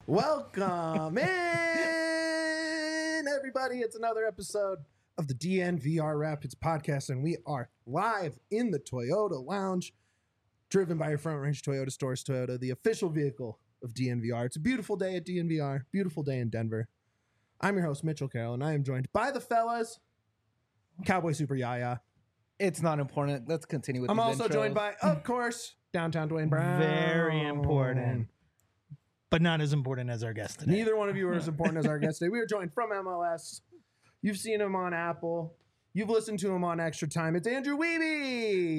Welcome in, everybody. It's another episode of the DNVR Rapids podcast, and we are live in the Toyota Lounge, driven by your Front Range Toyota Stores. Toyota, the official vehicle of DNVR. It's a beautiful day at DNVR, beautiful day in Denver. I'm your host, Mitchell Carroll, and I am joined by the fellas, Cowboy Super Yaya. It's not important. Let's continue with I'm these also intros. joined by, of course, Downtown Dwayne Brown. Very important, but not as important as our guest today. Neither one of you are as important as our guest today. We are joined from MLS. You've seen him on Apple. You've listened to him on Extra Time. It's Andrew Wiebe.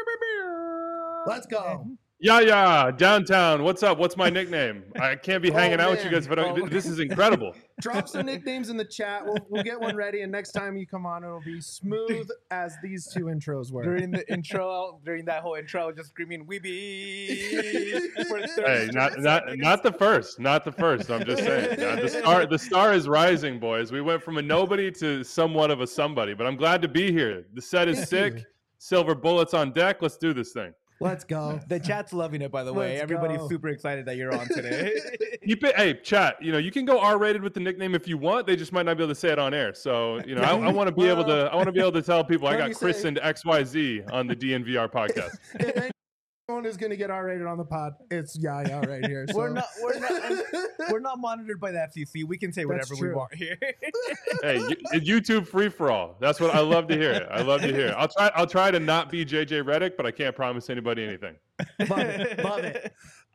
Let's go. Yeah, downtown. What's up? What's my nickname? I can't be hanging out with you guys, but this is incredible. Drop some nicknames in the chat. We'll get one ready, and next time you come on, it'll be smooth as these two intros were. During the intro, during that whole intro, just screaming "Weeby." Hey, not the first. Not the first. I'm just saying. The star is rising, boys. We went from a nobody to somewhat of a somebody, but I'm glad to be here. The set is sick. Silver bullets on deck. Let's do this thing. Let's go. The chat's loving it, by the way. Let's Everybody's go. super excited that you're on today. Hey, chat. You can go R-rated with the nickname if you want. They just might not be able to say it on air. So I want to be able to. I want to be able to tell people I got christened XYZ on the DNVR podcast. If anyone is going to get R-rated on the pod, it's Yaya right here. So. We're not monitored by the FCC. We can say whatever we want here. Hey, YouTube free for all. That's what I love to hear. I'll try to not be JJ Redick, but I can't promise anybody anything. Love it.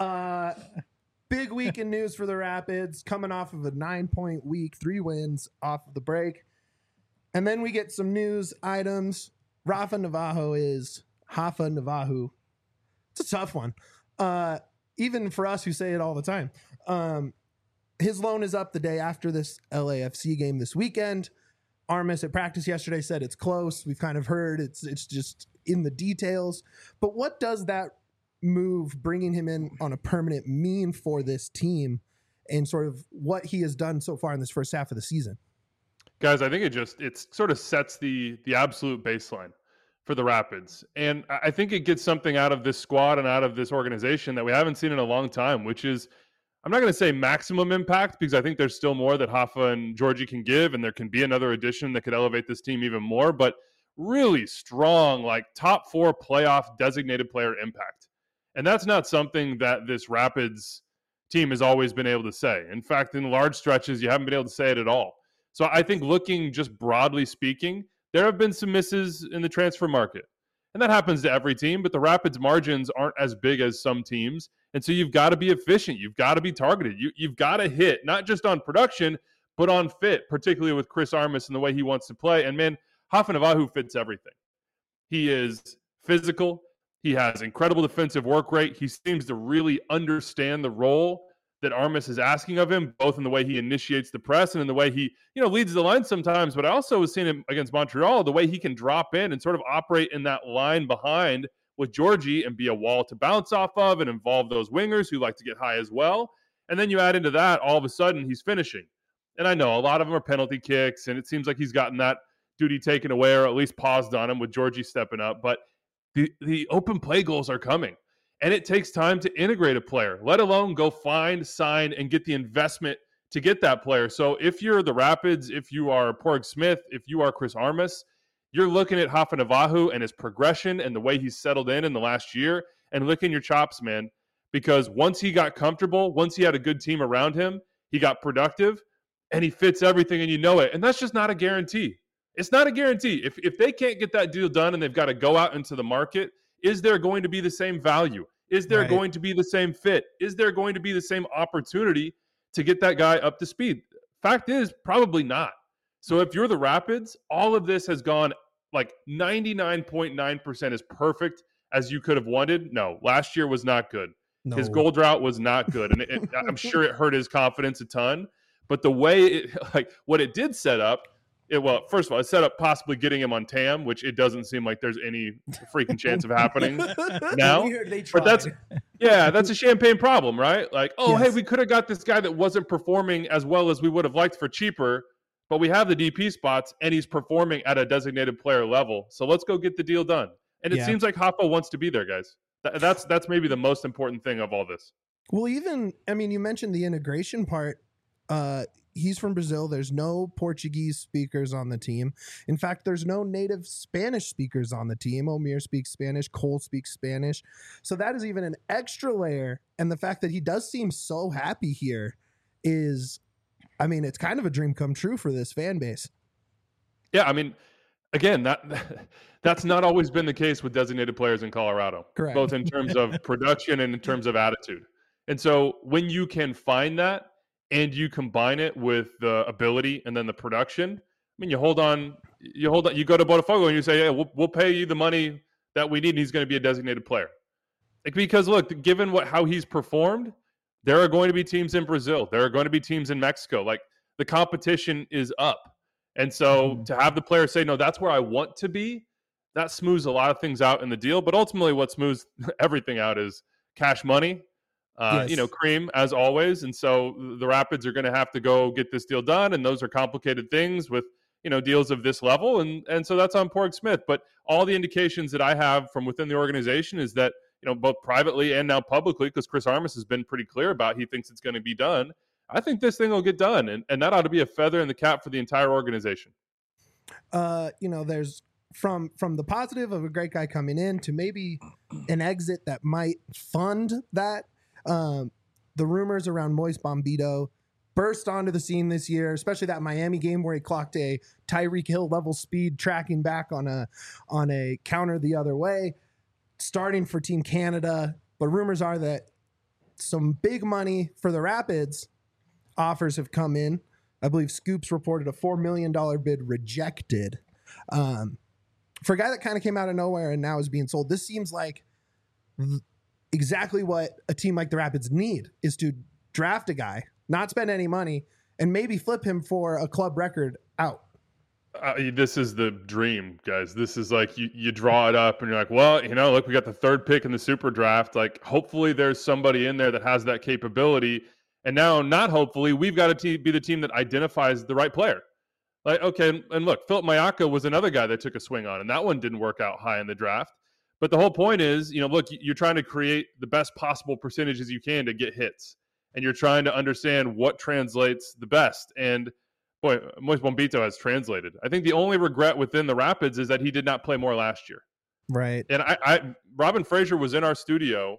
Big week in news for the Rapids, coming off of a 9-point week, 3 wins off of the break. And then we get some news items. Rafa Navajo is Hafa Navajo. It's a tough one. Even for us who say it all the time. His loan is up the day after this LAFC game this weekend. Armis at practice yesterday said it's close. We've kind of heard it's just in the details. But what does that move, bringing him in on a permanent, mean for this team and sort of what he has done so far in this first half of the season? Guys, I think it sort of sets the absolute baseline for the Rapids. And I think it gets something out of this squad and out of this organization that we haven't seen in a long time, which is, I'm not going to say maximum impact, because I think there's still more that Hafa and Georgie can give, and there can be another addition that could elevate this team even more, but really strong, like top 4 playoff designated player impact. And that's not something that this Rapids team has always been able to say. In fact, in large stretches, you haven't been able to say it at all. So I think looking just broadly speaking, there have been some misses in the transfer market. And that happens to every team, but the Rapids margins aren't as big as some teams. And so you've got to be efficient. You've got to be targeted. You've got to hit, not just on production, but on fit, particularly with Chris Armas and the way he wants to play. And man, Hafa Navajo fits everything. He is physical. He has incredible defensive work rate. He seems to really understand the role that Armas is asking of him, both in the way he initiates the press and in the way he, leads the line sometimes. But I also was seeing him against Montreal, the way he can drop in and sort of operate in that line behind with Georgie and be a wall to bounce off of and involve those wingers who like to get high as well. And then you add into that, all of a sudden, he's finishing. And I know a lot of them are penalty kicks, and it seems like he's gotten that duty taken away or at least paused on him with Georgie stepping up. But the open play goals are coming. And it takes time to integrate a player, let alone go find, sign, and get the investment to get that player. So if you're the Rapids, if you are Porg Smith, if you are Chris Armas, you're looking at Hafa Navajo and his progression and the way he's settled in the last year and licking your chops, man. Because once he got comfortable, once he had a good team around him, he got productive, and he fits everything, and you know it. And that's just not a guarantee. It's not a guarantee. If they can't get that deal done and they've got to go out into the market, is there going to be the same value? Is there going to be the same fit? Is there going to be the same opportunity to get that guy up to speed? Fact is, probably not. So if you're the Rapids, all of this has gone like 99.9% as perfect as you could have wanted. No, last year was not good. No. His goal drought was not good. And I'm sure it hurt his confidence a ton. But the way what it did set up, first of all, it set up possibly getting him on TAM, which it doesn't seem like there's any freaking chance of happening now. But that's a champagne problem, right? Like, hey, we could have got this guy that wasn't performing as well as we would have liked for cheaper, but we have the DP spots and he's performing at a designated player level. So let's go get the deal done. And it seems like Hafa wants to be there, guys. That's maybe the most important thing of all this. Well, even, I mean, you mentioned the integration part. He's from Brazil. There's no Portuguese speakers on the team. In fact, there's no native Spanish speakers on the team. Omir speaks Spanish. Cole speaks Spanish. So that is even an extra layer. And the fact that he does seem so happy here is, I mean, it's kind of a dream come true for this fan base. Yeah, I mean, again, that's not always been the case with designated players in Colorado, Correct. both in terms of production and in terms of attitude. And so when you can find that and you combine it with the ability and then the production, I mean, you go to Botafogo and you say, yeah, we'll pay you the money that we need, and he's going to be a designated player. Like, because look, given how he's performed, there are going to be teams in Brazil. There are going to be teams in Mexico. Like, the competition is up. And so to have the player say, no, that's where I want to be, that smooths a lot of things out in the deal. But ultimately what smooths everything out is cash money, Yes. cream as always. And so the Rapids are going to have to go get this deal done. And those are complicated things with, deals of this level. And so that's on Porg Smith. But all the indications that I have from within the organization is that, both privately and now publicly, because Chris Armas has been pretty clear about he thinks it's going to be done. I think this thing will get done, and that ought to be a feather in the cap for the entire organization. There's from the positive of a great guy coming in to maybe an exit that might fund that. The rumors around Moise Bombito burst onto the scene this year, especially that Miami game where he clocked a Tyreek Hill level speed tracking back on a counter the other way, starting for Team Canada. But rumors are that some big money for the Rapids offers have come in. I believe Scoops reported a $4 million bid rejected. For a guy that kind of came out of nowhere and now is being sold, this seems like exactly what a team like the Rapids need, is to draft a guy, not spend any money, and maybe flip him for a club record out. This is the dream, guys. This is like you draw it up and you're like, well, look, we got the third pick in the super draft. Like, hopefully there's somebody in there that has that capability. And now, not hopefully, we've got to be the team that identifies the right player. Like, okay, and look, Philip Mayaka was another guy that took a swing on, and that one didn't work out high in the draft. But the whole point is, look, you're trying to create the best possible percentages you can to get hits. And you're trying to understand what translates the best. And boy, Moise Bombito has translated. I think the only regret within the Rapids is that he did not play more last year. Right. And Robin Fraser was in our studio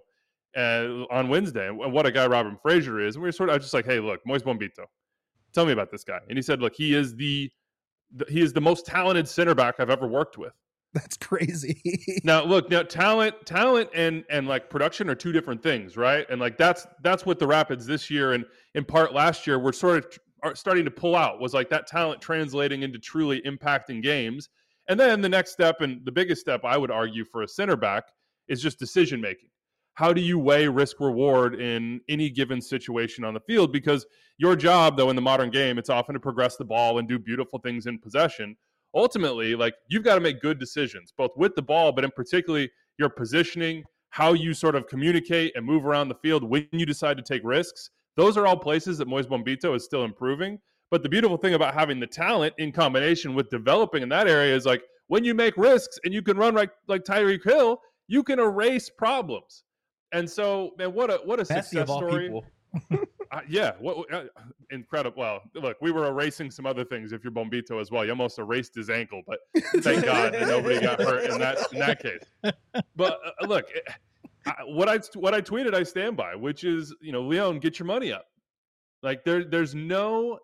on Wednesday, and what a guy Robin Fraser is. And we were I was just like, hey, look, Moise Bombito, tell me about this guy. And he said, look, he is the most talented center back I've ever worked with. That's crazy. Now, look, talent and like production are two different things, right? And like that's what the Rapids this year and in part last year were sort of are starting to pull out, was like that talent translating into truly impacting games. And then the next step, and the biggest step I would argue for a center back, is just decision making. How do you weigh risk reward in any given situation on the field? Because your job, though, in the modern game, it's often to progress the ball and do beautiful things in possession. Ultimately, like, you've got to make good decisions, both with the ball, but in particularly your positioning, how you sort of communicate and move around the field when you decide to take risks. Those are all places that Moise Bombito is still improving. But the beautiful thing about having the talent in combination with developing in that area is, like, when you make risks and you can run like Tyreek Hill, you can erase problems. And so, man, what a success story. Yeah, incredible. Well, look, we were erasing some other things if you're Bombito as well. You almost erased his ankle, but thank God that nobody got hurt in that case. But look, what I tweeted, I stand by, which is, Leon, get your money up. Like, there's no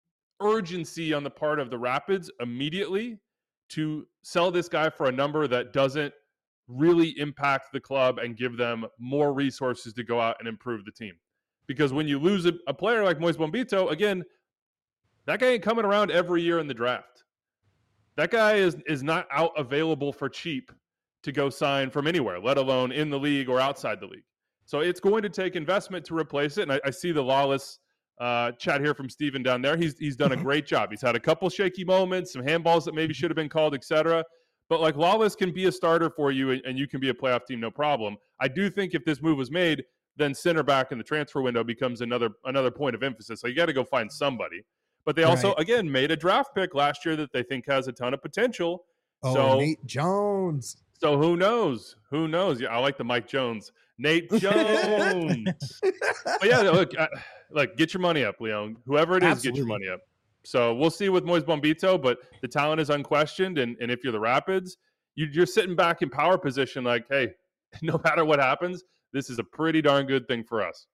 urgency on the part of the Rapids immediately to sell this guy for a number that doesn't really impact the club and give them more resources to go out and improve the team. Because when you lose a player like Moise Bombito, again, that guy ain't coming around every year in the draft. That guy is not out available for cheap to go sign from anywhere, let alone in the league or outside the league. So it's going to take investment to replace it. And I see the Lawless chat here from Steven down there. He's done a great job. He's had a couple shaky moments, some handballs that maybe should have been called, etc. But like, Lawless can be a starter for you, and you can be a playoff team, no problem. I do think if this move was made, then center back in the transfer window becomes another point of emphasis. So you got to go find somebody. But they also, again, made a draft pick last year that they think has a ton of potential. Nate Jones. So who knows? Who knows? Yeah, I like the Mike Jones, Nate Jones. But yeah, look, get your money up, Leon. Whoever it is, Absolutely. get your money up. So we'll see with Moise Bombito, but the talent is unquestioned. And if you're the Rapids, you're sitting back in power position like, hey, no matter what happens, this is a pretty darn good thing for us.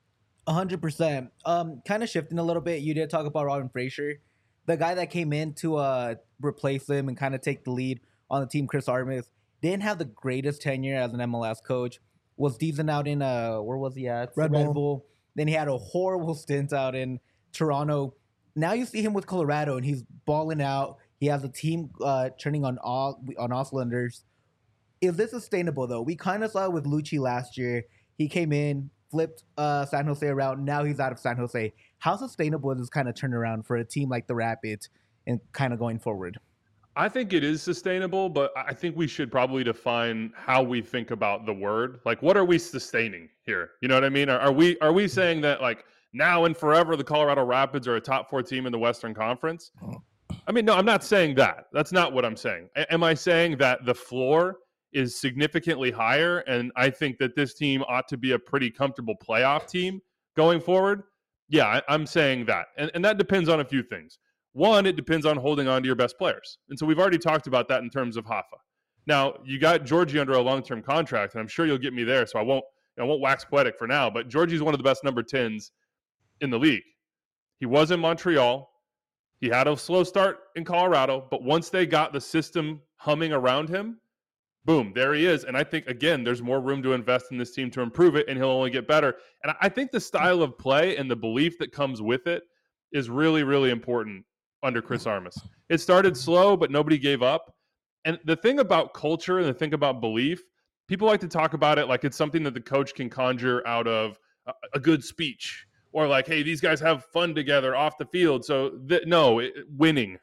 100%. Kind of shifting a little bit. You did talk about Robin Fraser, the guy that came in to replace him and kind of take the lead on the team. Chris Armas didn't have the greatest tenure as an MLS coach. Was decent out in where was he at? Red Bull. Then he had a horrible stint out in Toronto. Now you see him with Colorado, and he's balling out. He has a team turning on all cylinders. Is this sustainable though? We kind of saw it with Lucci last year. He came in, flipped San Jose around. Now he's out of San Jose. How sustainable is this kind of turnaround for a team like the Rapids and kind of going forward? I think it is sustainable, but I think we should probably define how we think about the word. Like, what are we sustaining here? You know what I mean? Are we saying that like now and forever the Colorado Rapids are a top 4 team in the Western Conference? I mean, no, I'm not saying that. That's not what I'm saying. Am I saying that the floor is significantly higher, and I think that this team ought to be a pretty comfortable playoff team going forward? Yeah, I'm saying that. And that depends on a few things. One, it depends on holding on to your best players. And so we've already talked about that in terms of Hoffa. Now, you got Georgie under a long-term contract, and I'm sure you'll get me there, so I won't wax poetic for now, but Georgie's one of the best number 10s in the league. He was in Montreal. He had a slow start in Colorado, but once they got the system humming around him, boom, there he is. And I think, again, there's more room to invest in this team to improve it, and he'll only get better. And I think the style of play and the belief that comes with it is really, really important under Chris Armas. It started slow, but nobody gave up. And the thing about culture and the thing about belief, people like to talk about it like it's something that the coach can conjure out of a good speech, or like, hey, these guys have fun together off the field. So winning.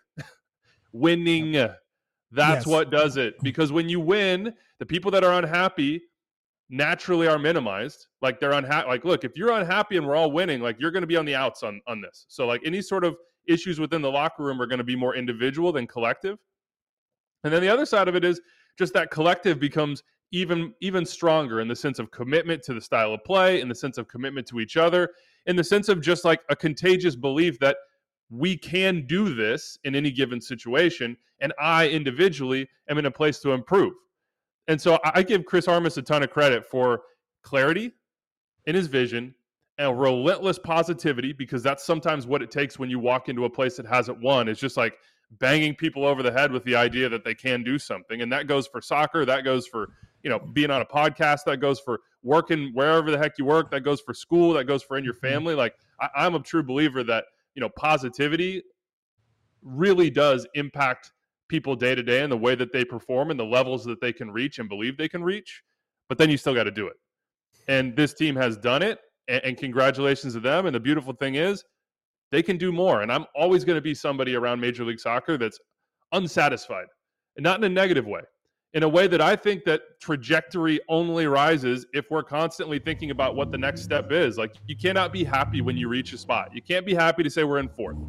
Winning. That's what does it. Because when you win, the people that are unhappy naturally are minimized. Like they're unhappy. Like, look, if you're unhappy and we're all winning, like you're going to be on the outs on this. So like any sort of issues within the locker room are going to be more individual than collective. And then the other side of it is just that collective becomes even stronger in the sense of commitment to the style of play, in the sense of commitment to each other, in the sense of just like a contagious belief that we can do this in any given situation, and I individually am in a place to improve. And so I give Chris Armas a ton of credit for clarity in his vision and relentless positivity, because that's sometimes what it takes when you walk into a place that hasn't won. It's just like banging people over the head with the idea that they can do something. And that goes for soccer. That goes for, being on a podcast. That goes for working wherever the heck you work. That goes for school. That goes for in your family. Like I'm a true believer that, positivity really does impact people day to day and the way that they perform and the levels that they can reach and believe they can reach. But then you still got to do it. And this team has done it. And congratulations to them. And the beautiful thing is they can do more. And I'm always going to be somebody around Major League Soccer that's unsatisfied, and not in a negative way, in a way that I think that trajectory only rises if we're constantly thinking about what the next step is. Like you cannot be happy when you reach a spot. You can't be happy to say we're in 4th.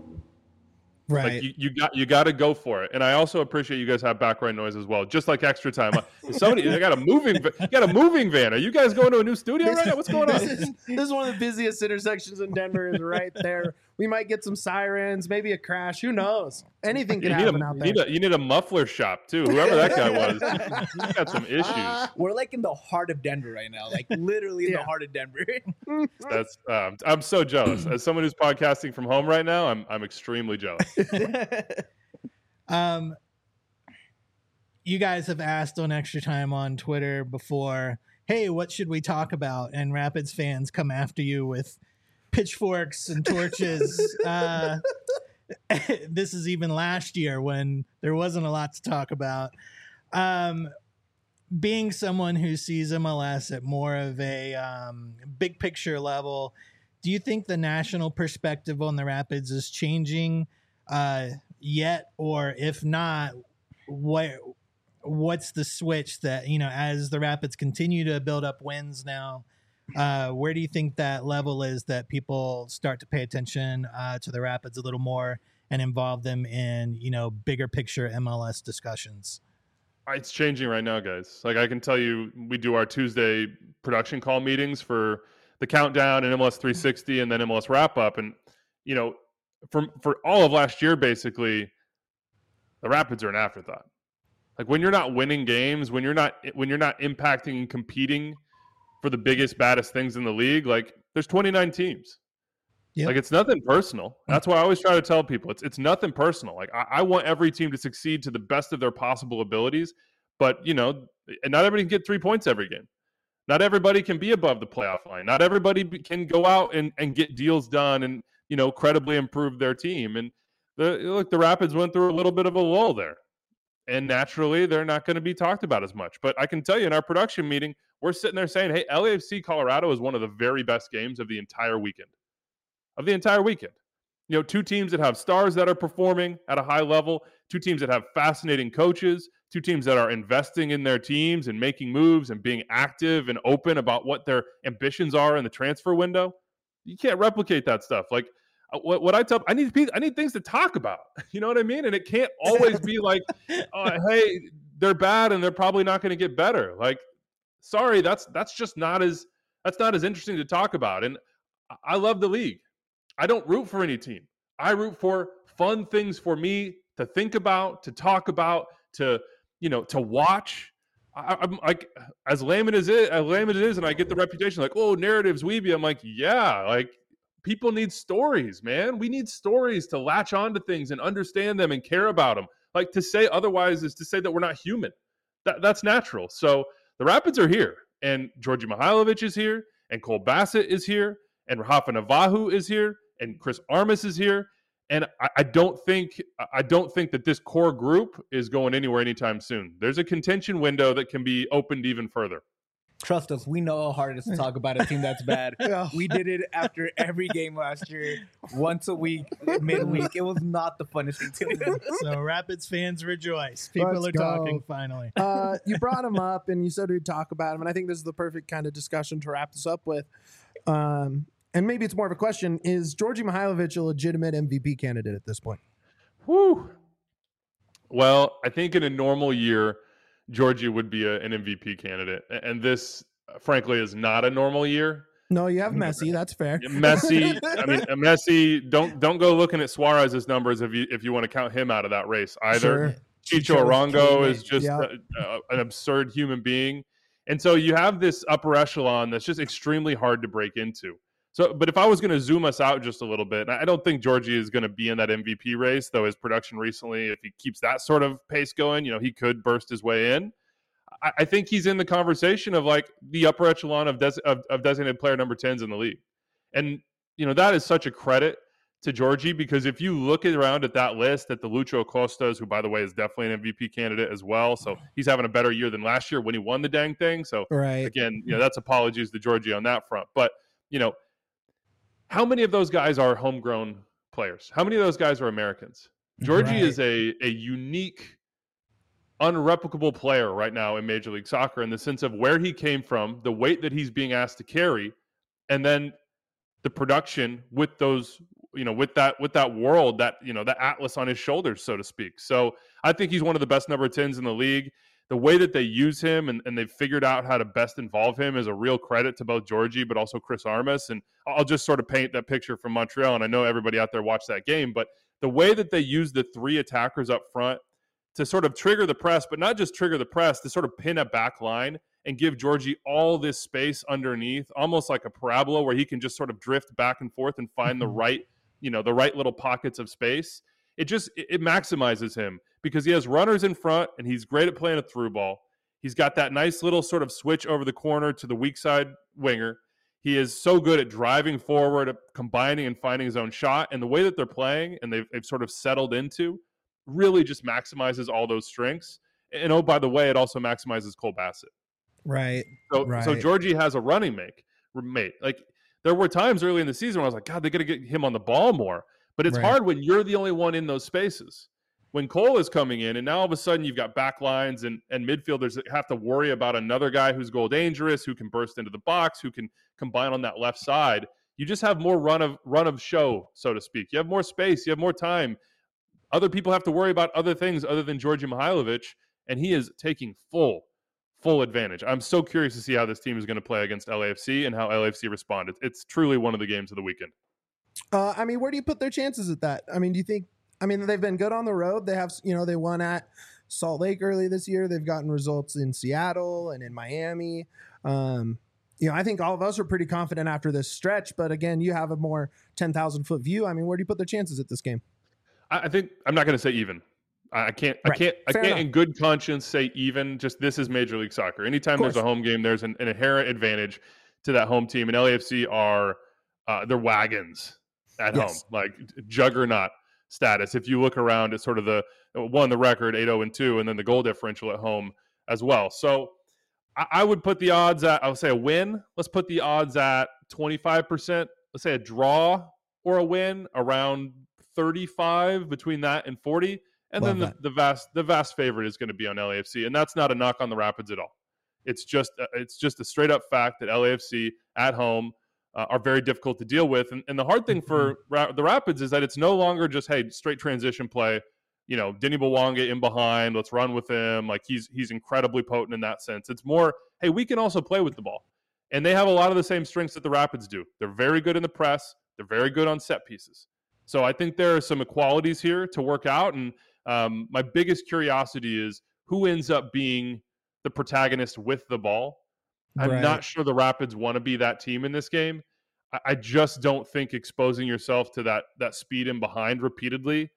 Right. Like you got to go for it. And I also appreciate you guys have background noise as well, just like extra time. They got a moving van. Are you guys going to a new studio right now? What's going on? This is one of the busiest intersections in Denver. Is right there. We might get some sirens, maybe a crash. Who knows? Anything can happen out there. You need a muffler shop too. Whoever that guy was, he's got some issues. We're like in the heart of Denver right now, like literally in the heart of Denver. That's I'm so jealous. As someone who's podcasting from home right now, I'm extremely jealous. You guys have asked on Extra Time on Twitter before, hey, what should we talk about? And Rapids fans come after you with pitchforks and torches. This is even last year when there wasn't a lot to talk about. Being someone who sees MLS at more of a big picture level, do you think the national perspective on the Rapids is changing yet? Or if not, what's the switch that, as the Rapids continue to build up wins now, where do you think that level is that people start to pay attention to the Rapids a little more and involve them in, bigger picture MLS discussions? It's changing right now, guys. Like I can tell you, we do our Tuesday production call meetings for the countdown and MLS 360 and then MLS wrap up. And, you know, for all of last year, basically, the Rapids are an afterthought. Like when you're not winning games, when you're not impacting and competing for the biggest, baddest things in the league, like there's 29 teams. Yep. Like it's nothing personal. That's why I always try to tell people it's nothing personal. Like I want every team to succeed to the best of their possible abilities, but you know, and not everybody can get 3 points every game. Not everybody can be above the playoff line. Not everybody can go out and get deals done and, you know, credibly improve their team. And the Rapids went through a little bit of a lull there. And naturally, they're not going to be talked about as much. But I can tell you in our production meeting, we're sitting there saying, hey, LAFC Colorado is one of the very best games of the entire weekend. You know, two teams that have stars that are performing at a high level, two teams that have fascinating coaches, two teams that are investing in their teams and making moves and being active and open about what their ambitions are in the transfer window. You can't replicate that stuff. Like what I tell, I need things to talk about. You know what I mean? And it can't always be like, hey, they're bad and they're probably not going to get better. Like, sorry, that's just not as interesting to talk about. And I love the league. I don't root for any team. I root for fun things for me to think about, to talk about, to watch. I'm like, as lame as it is, and I get the reputation like, oh, narratives, weeby. I'm like, yeah, like people need stories, man. We need stories to latch onto things and understand them and care about them. Like to say otherwise is to say that we're not human. That's natural. So the Rapids are here, and Djordje Mihailovic is here, and Cole Bassett is here, and Rafa Navahu is here, and Chris Armas is here. And I don't think that this core group is going anywhere anytime soon. There's a contention window that can be opened even further. Trust us, we know how hard it is to talk about a team that's bad. Yeah. We did it after every game last year, once a week, midweek. It was not the funnest thing to do. So Rapids fans rejoice. People Let's are go. talking finally. You brought him up and you said we'd talk about him, and I think this is the perfect kind of discussion to wrap this up with. And maybe it's more of a question: is Djordje Mihailovic a legitimate MVP candidate at this point? Whew. Well, I think in a normal year, Djordje would be an MVP candidate, and this, frankly, is not a normal year. No, you have Messi. That's fair. Messi. Don't go looking at Suarez's numbers if you want to count him out of that race either. Sure. Chicho Arango is just Yeah. an absurd human being, and so you have this upper echelon that's just extremely hard to break into. So, but if I was going to zoom us out just a little bit, I don't think Djordje is going to be in that MVP race, though his production recently, if he keeps that sort of pace going, you know, he could burst his way in. I think he's in the conversation of like the upper echelon of designated player number 10s in the league. And, you know, that is such a credit to Djordje, because if you look around at that list at the Lucho Costas, who, by the way, is definitely an MVP candidate as well. So he's having a better year than last year when he won the dang thing. So Right. again, you know, that's apologies to Djordje on that front. But, you know, how many of those guys are homegrown players? How many of those guys are Americans? Djordje Right. is a unique, unreplicable player right now in Major League Soccer in the sense of where he came from, the weight that he's being asked to carry, and then the production with those, you know, with that world, that, you know, the atlas on his shoulders, so to speak. So I think he's one of the best number 10s in the league. The way that they use him and they've figured out how to best involve him is a real credit to both Djordje, but also Chris Armas. And I'll just sort of paint that picture from Montreal. And I know everybody out there watched that game, but the way that they use the three attackers up front to sort of trigger the press, but not just trigger the press, to sort of pin a back line and give Djordje all this space underneath, almost like a parabola where he can just sort of drift back and forth and find the right little pockets of space. It maximizes him because he has runners in front and he's great at playing a through ball. He's got that nice little sort of switch over the corner to the weak side winger. He is so good at driving forward, at combining and finding his own shot. And the way that they're playing and they've sort of settled into really just maximizes all those strengths. And oh, by the way, it also maximizes Cole Bassett. Right. So Right. Djordje has a running mate. Like there were times early in the season where I was like, God, they got to get him on the ball more. But it's Right. hard when you're the only one in those spaces. When Cole is coming in and now all of a sudden you've got back lines and midfielders that have to worry about another guy who's goal dangerous, who can burst into the box, who can combine on that left side. You just have more run of show, so to speak. You have more space. You have more time. Other people have to worry about other things other than Djordje Mihailovic. and he is taking full advantage. I'm so curious to see how this team is going to play against LAFC and how LAFC respond. It's truly one of the games of the weekend. I mean, where do you put their chances at that? I mean, do you think? I mean, they've been good on the road. They have, they won at Salt Lake early this year. They've gotten results in Seattle and in Miami. I think all of us are pretty confident after this stretch. But again, you have a more 10,000-foot view. I mean, where do you put their chances at this game? I think I'm not going to say even. I can't in good conscience say even. Just this is Major League Soccer. Anytime there's a home game, there's an inherent advantage to that home team. And LAFC are they're wagons at home, like juggernaut status. If you look around at sort of the record 8-0-2, and then the goal differential at home as well. So I would put the odds at, I would say a win. Let's put the odds at 25%. Let's say a draw or a win around 35, between that and 40. And then the vast favorite is going to be on LAFC. And that's not a knock on the Rapids at all. It's just a straight up fact that LAFC at home are very difficult to deal with. And the hard thing for the Rapids is that it's no longer just, hey, straight transition play. Denny Bwanga in behind, let's run with him. Like he's incredibly potent in that sense. It's more, hey, we can also play with the ball. And they have a lot of the same strengths that the Rapids do. They're very good in the press. They're very good on set pieces. So I think there are some equalities here to work out. And my biggest curiosity is who ends up being the protagonist with the ball. I'm not sure the Rapids want to be that team in this game. I just don't think exposing yourself to that speed in behind repeatedly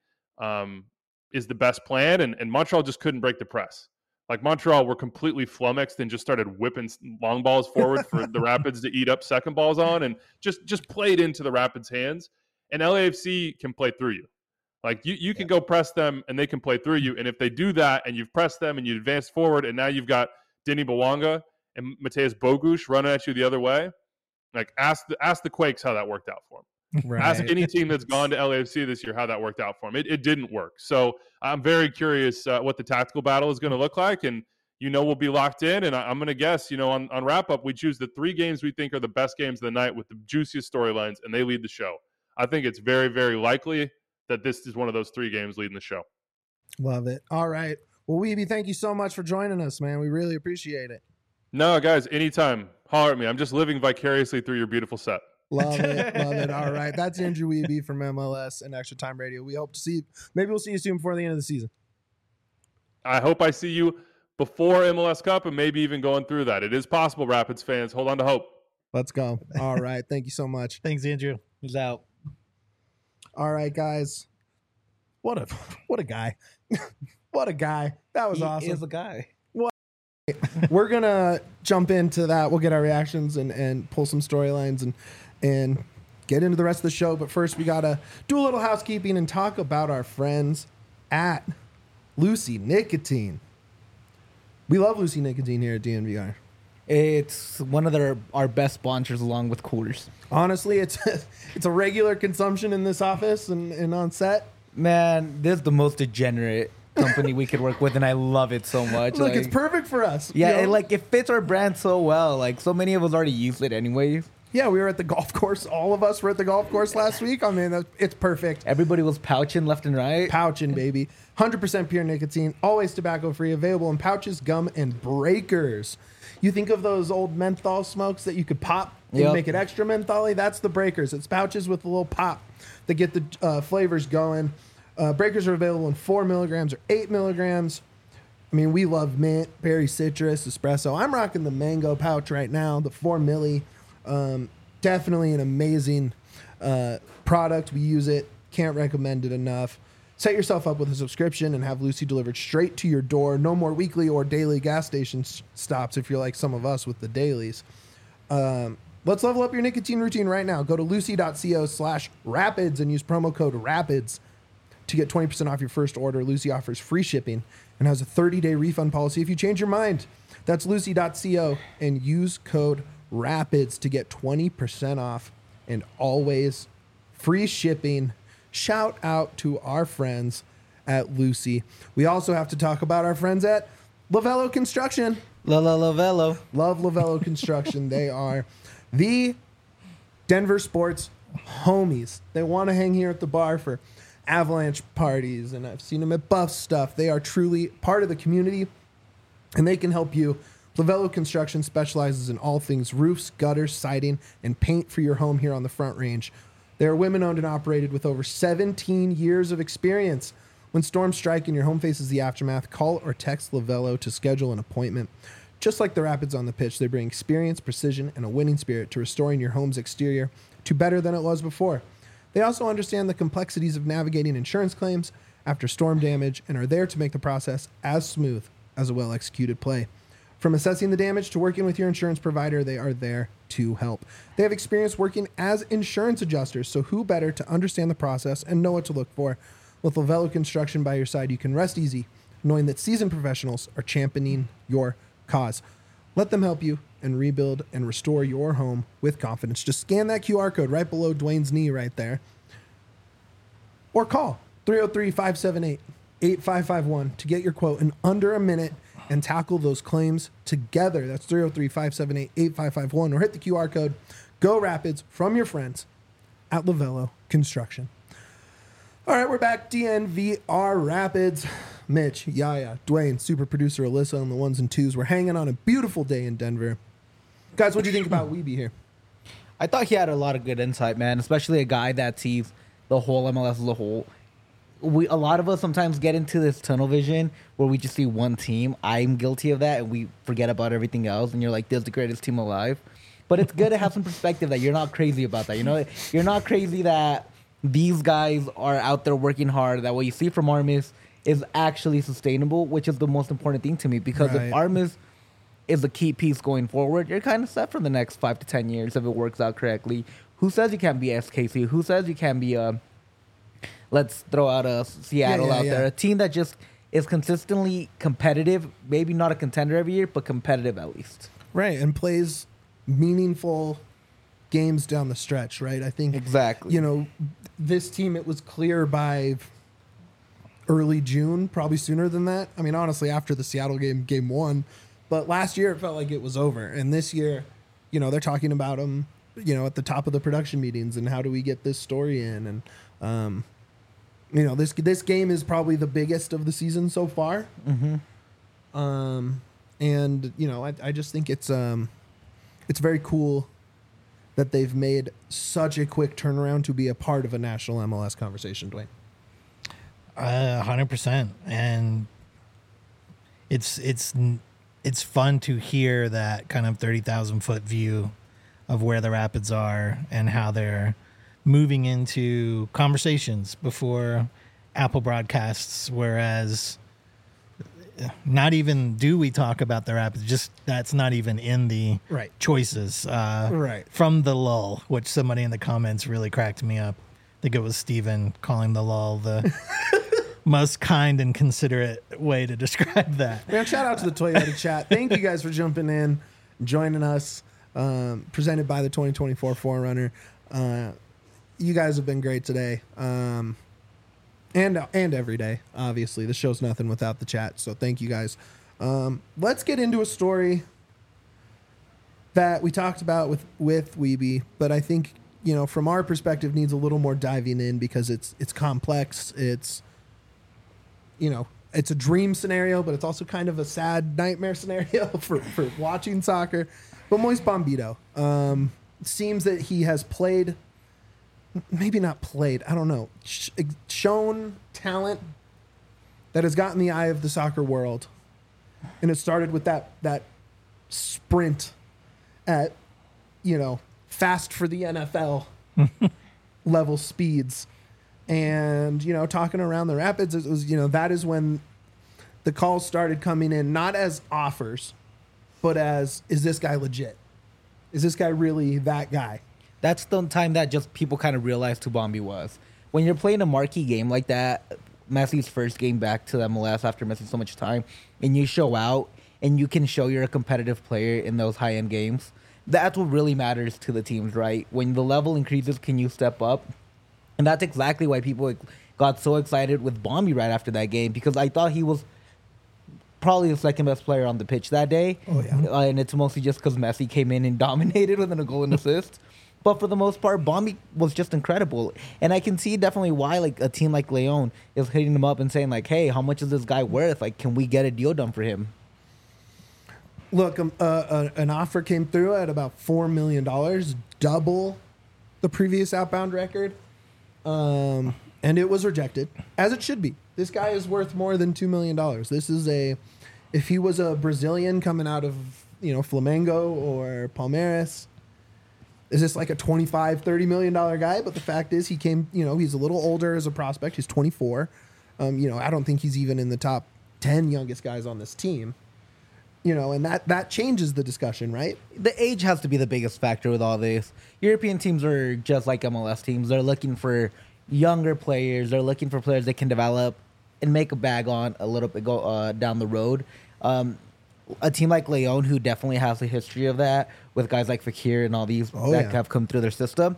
is the best plan. And Montreal just couldn't break the press. Like Montreal were completely flummoxed and just started whipping long balls forward for the Rapids to eat up second balls on, and just played into the Rapids' hands. And LAFC can play through you. Like you can go press them and they can play through you. And if they do that and you've pressed them and you advance forward and now you've got Denny Bwanga and Mateusz Bogusz running at you the other way, like ask the Quakes how that worked out for them. Right. Ask any team that's gone to LAFC this year how that worked out for them. It didn't work. So I'm very curious what the tactical battle is going to look like. And, we'll be locked in. And I'm going to guess, on wrap-up, we choose the 3 games we think are the best games of the night with the juiciest storylines, and they lead the show. I think it's very, very likely that this is one of those 3 games leading the show. Love it. All right. Well, Weeby, thank you so much for joining us, man. We really appreciate it. No, guys, anytime. Holler at me. I'm just living vicariously through your beautiful set. Love it. Love it. All right. That's Andrew Weeby from MLS and Extra Time Radio. We hope to see you. Maybe we'll see you soon before the end of the season. I hope I see you before MLS Cup and maybe even going through that. It is possible, Rapids fans. Hold on to hope. Let's go. All right. Thank you so much. Thanks, Andrew. He's out. All right, guys. What a guy. What a guy. That was awesome. He is a guy. We're going to jump into that. We'll get our reactions and pull some storylines and get into the rest of the show. But first, we got to do a little housekeeping and talk about our friends at Lucy Nicotine. We love Lucy Nicotine here at DNVR. It's one of our best sponsors along with Coolers. Honestly, it's a regular consumption in this office and on set. Man, this is the most degenerate company we could work with, and I love it so much. Look, it's perfect for us. Yeah, it fits our brand so well. Like, so many of us already use it anyways. Yeah, we were at the golf course. All of us were at the golf course last week. I mean, it's perfect. Everybody was pouching left and right. Pouching, baby. 100% pure nicotine, always tobacco-free, available in pouches, gum, and breakers. You think of those old menthol smokes that you could pop and make it extra mentholy? That's the breakers. It's pouches with a little pop that get the flavors going. Breakers are available in 4 milligrams or 8 milligrams. I mean, we love mint, berry citrus, espresso. I'm rocking the mango pouch right now, the 4 milli. Definitely an amazing product. We use it. Can't recommend it enough. Set yourself up with a subscription and have Lucy delivered straight to your door. No more weekly or daily gas station stops if you're like some of us with the dailies. Let's level up your nicotine routine right now. Go to lucy.co/rapids and use promo code RAPIDS to get 20% off your first order. Lucy offers free shipping and has a 30-day refund policy if you change your mind. That's lucy.co and use code RAPIDS to get 20% off and always free shipping. Shout out to our friends at Lucy. We also have to talk about our friends at Lavello Construction. Lavello. Love Lavello Construction. They are the Denver sports homies. They want to hang here at the bar for Avalanche parties, and I've seen them at Buff stuff. They are truly part of the community. and they can help you. Lavello Construction specializes in all things roofs, gutters, siding, and paint for your home here on the Front Range. They are women-owned and operated with over 17 years of experience. When storms strike and your home faces the aftermath, call or text Lavello to schedule an appointment. Just like the Rapids on the pitch, they bring experience, precision, and a winning spirit to restoring your home's exterior to better than it was before. They also understand the complexities of navigating insurance claims after storm damage and are there to make the process as smooth as a well-executed play. From assessing the damage to working with your insurance provider, they are there to help. They have experience working as insurance adjusters, so who better to understand the process and know what to look for? With Lavello Construction by your side, you can rest easy knowing that seasoned professionals are championing your cause. Let them help you and rebuild and restore your home with confidence. Just scan that QR code right below Dwayne's knee right there. Or call 303-578-8551 to get your quote in under a minute and tackle those claims together. That's 303-578-8551. Or hit the QR code. Go Rapids from your friends at Lavello Construction. All right, we're back. DNVR Rapids. Mitch, Yaya, Dwayne, super producer Alyssa on the ones and twos. We're hanging on a beautiful day in Denver. Guys, what do you think about Wiebe here? I thought he had a lot of good insight, man, especially a guy that sees the whole MLS as a whole. A lot of us sometimes get into this tunnel vision where we just see one team. I'm guilty of that, and we forget about everything else, and you're like, this is the greatest team alive. But it's good to have some perspective that you're not crazy about that. You know, you're not crazy that these guys are out there working hard, that what you see from Armis is actually sustainable, which is the most important thing to me. Because if Armis is a key piece going forward, you're kind of set for the next 5 to 10 years if it works out correctly. Who says you can't be SKC? Who says you can't be let's throw out a Seattle out there, a team that just is consistently competitive, maybe not a contender every year, but competitive at least. Right, and plays meaningful games down the stretch, right? I think exactly. You know, this team, it was clear by early June, probably sooner than that. I mean, honestly, after the Seattle game 1, but last year it felt like it was over, and this year, you know, they're talking about them, you know, at the top of the production meetings and how do we get this story in, and you know, this game is probably the biggest of the season so far. Mm-hmm. And you know, I just think it's very cool that they've made such a quick turnaround to be a part of a national MLS conversation, Dwayne. 100%, and it's fun to hear that kind of 30,000 foot view of where the Rapids are and how they're moving into conversations before Apple broadcasts, whereas not even do we talk about the Rapids, just that's not even in the choices. From the lull, which somebody in the comments really cracked me up. I think it was Steven calling the lull the most kind and considerate way to describe that. Man, shout out to the Toyota chat. Thank you guys for jumping in, joining us, presented by the 2024 4Runner. You guys have been great today, and every day. Obviously, the show's nothing without the chat. So thank you guys. Let's get into a story that we talked about with Wiebe, but I think, you know, from our perspective, needs a little more diving in because it's complex. It's, you know, it's a dream scenario, but it's also kind of a sad nightmare scenario for watching soccer. But Moise Bombito, seems that he has played. Maybe not played, I don't know, shown talent that has gotten the eye of the soccer world. And it started with that sprint at, you know, fast for the NFL level speeds. And, you know, talking around the Rapids, it was, you know, that is when the calls started coming in, not as offers, but as, is this guy legit? Is this guy really that guy? That's the time that just people kind of realized who Bombi was. When you're playing a marquee game like that, Messi's first game back to the MLS after missing so much time, and you show out and you can show you're a competitive player in those high-end games, that's what really matters to the teams, right? When the level increases, can you step up? And that's exactly why people got so excited with Bombi right after that game, because I thought he was probably the second best player on the pitch that day. Oh, yeah. And it's mostly just because Messi came in and dominated within a goal and assist. But for the most part, Bombi was just incredible. And I can see definitely why like a team like Leon is hitting him up and saying like, hey, how much is this guy worth? Like, can we get a deal done for him? Look, an offer came through at about $4 million, double the previous outbound record. And it was rejected, as it should be. This guy is worth more than $2 million. This is if he was a Brazilian coming out of, Flamengo or Palmeiras, is this like a $25, $30 million guy? But the fact is he came, he's a little older as a prospect. He's 24. I don't think he's even in the top 10 youngest guys on this team. And that changes the discussion, right? The age has to be the biggest factor with all this. European teams are just like MLS teams. They're looking for younger players. They're looking for players they can develop and make a bag on a little bit down the road. A team like Leon, who definitely has a history of that, with guys like Fekir and all these have come through their system,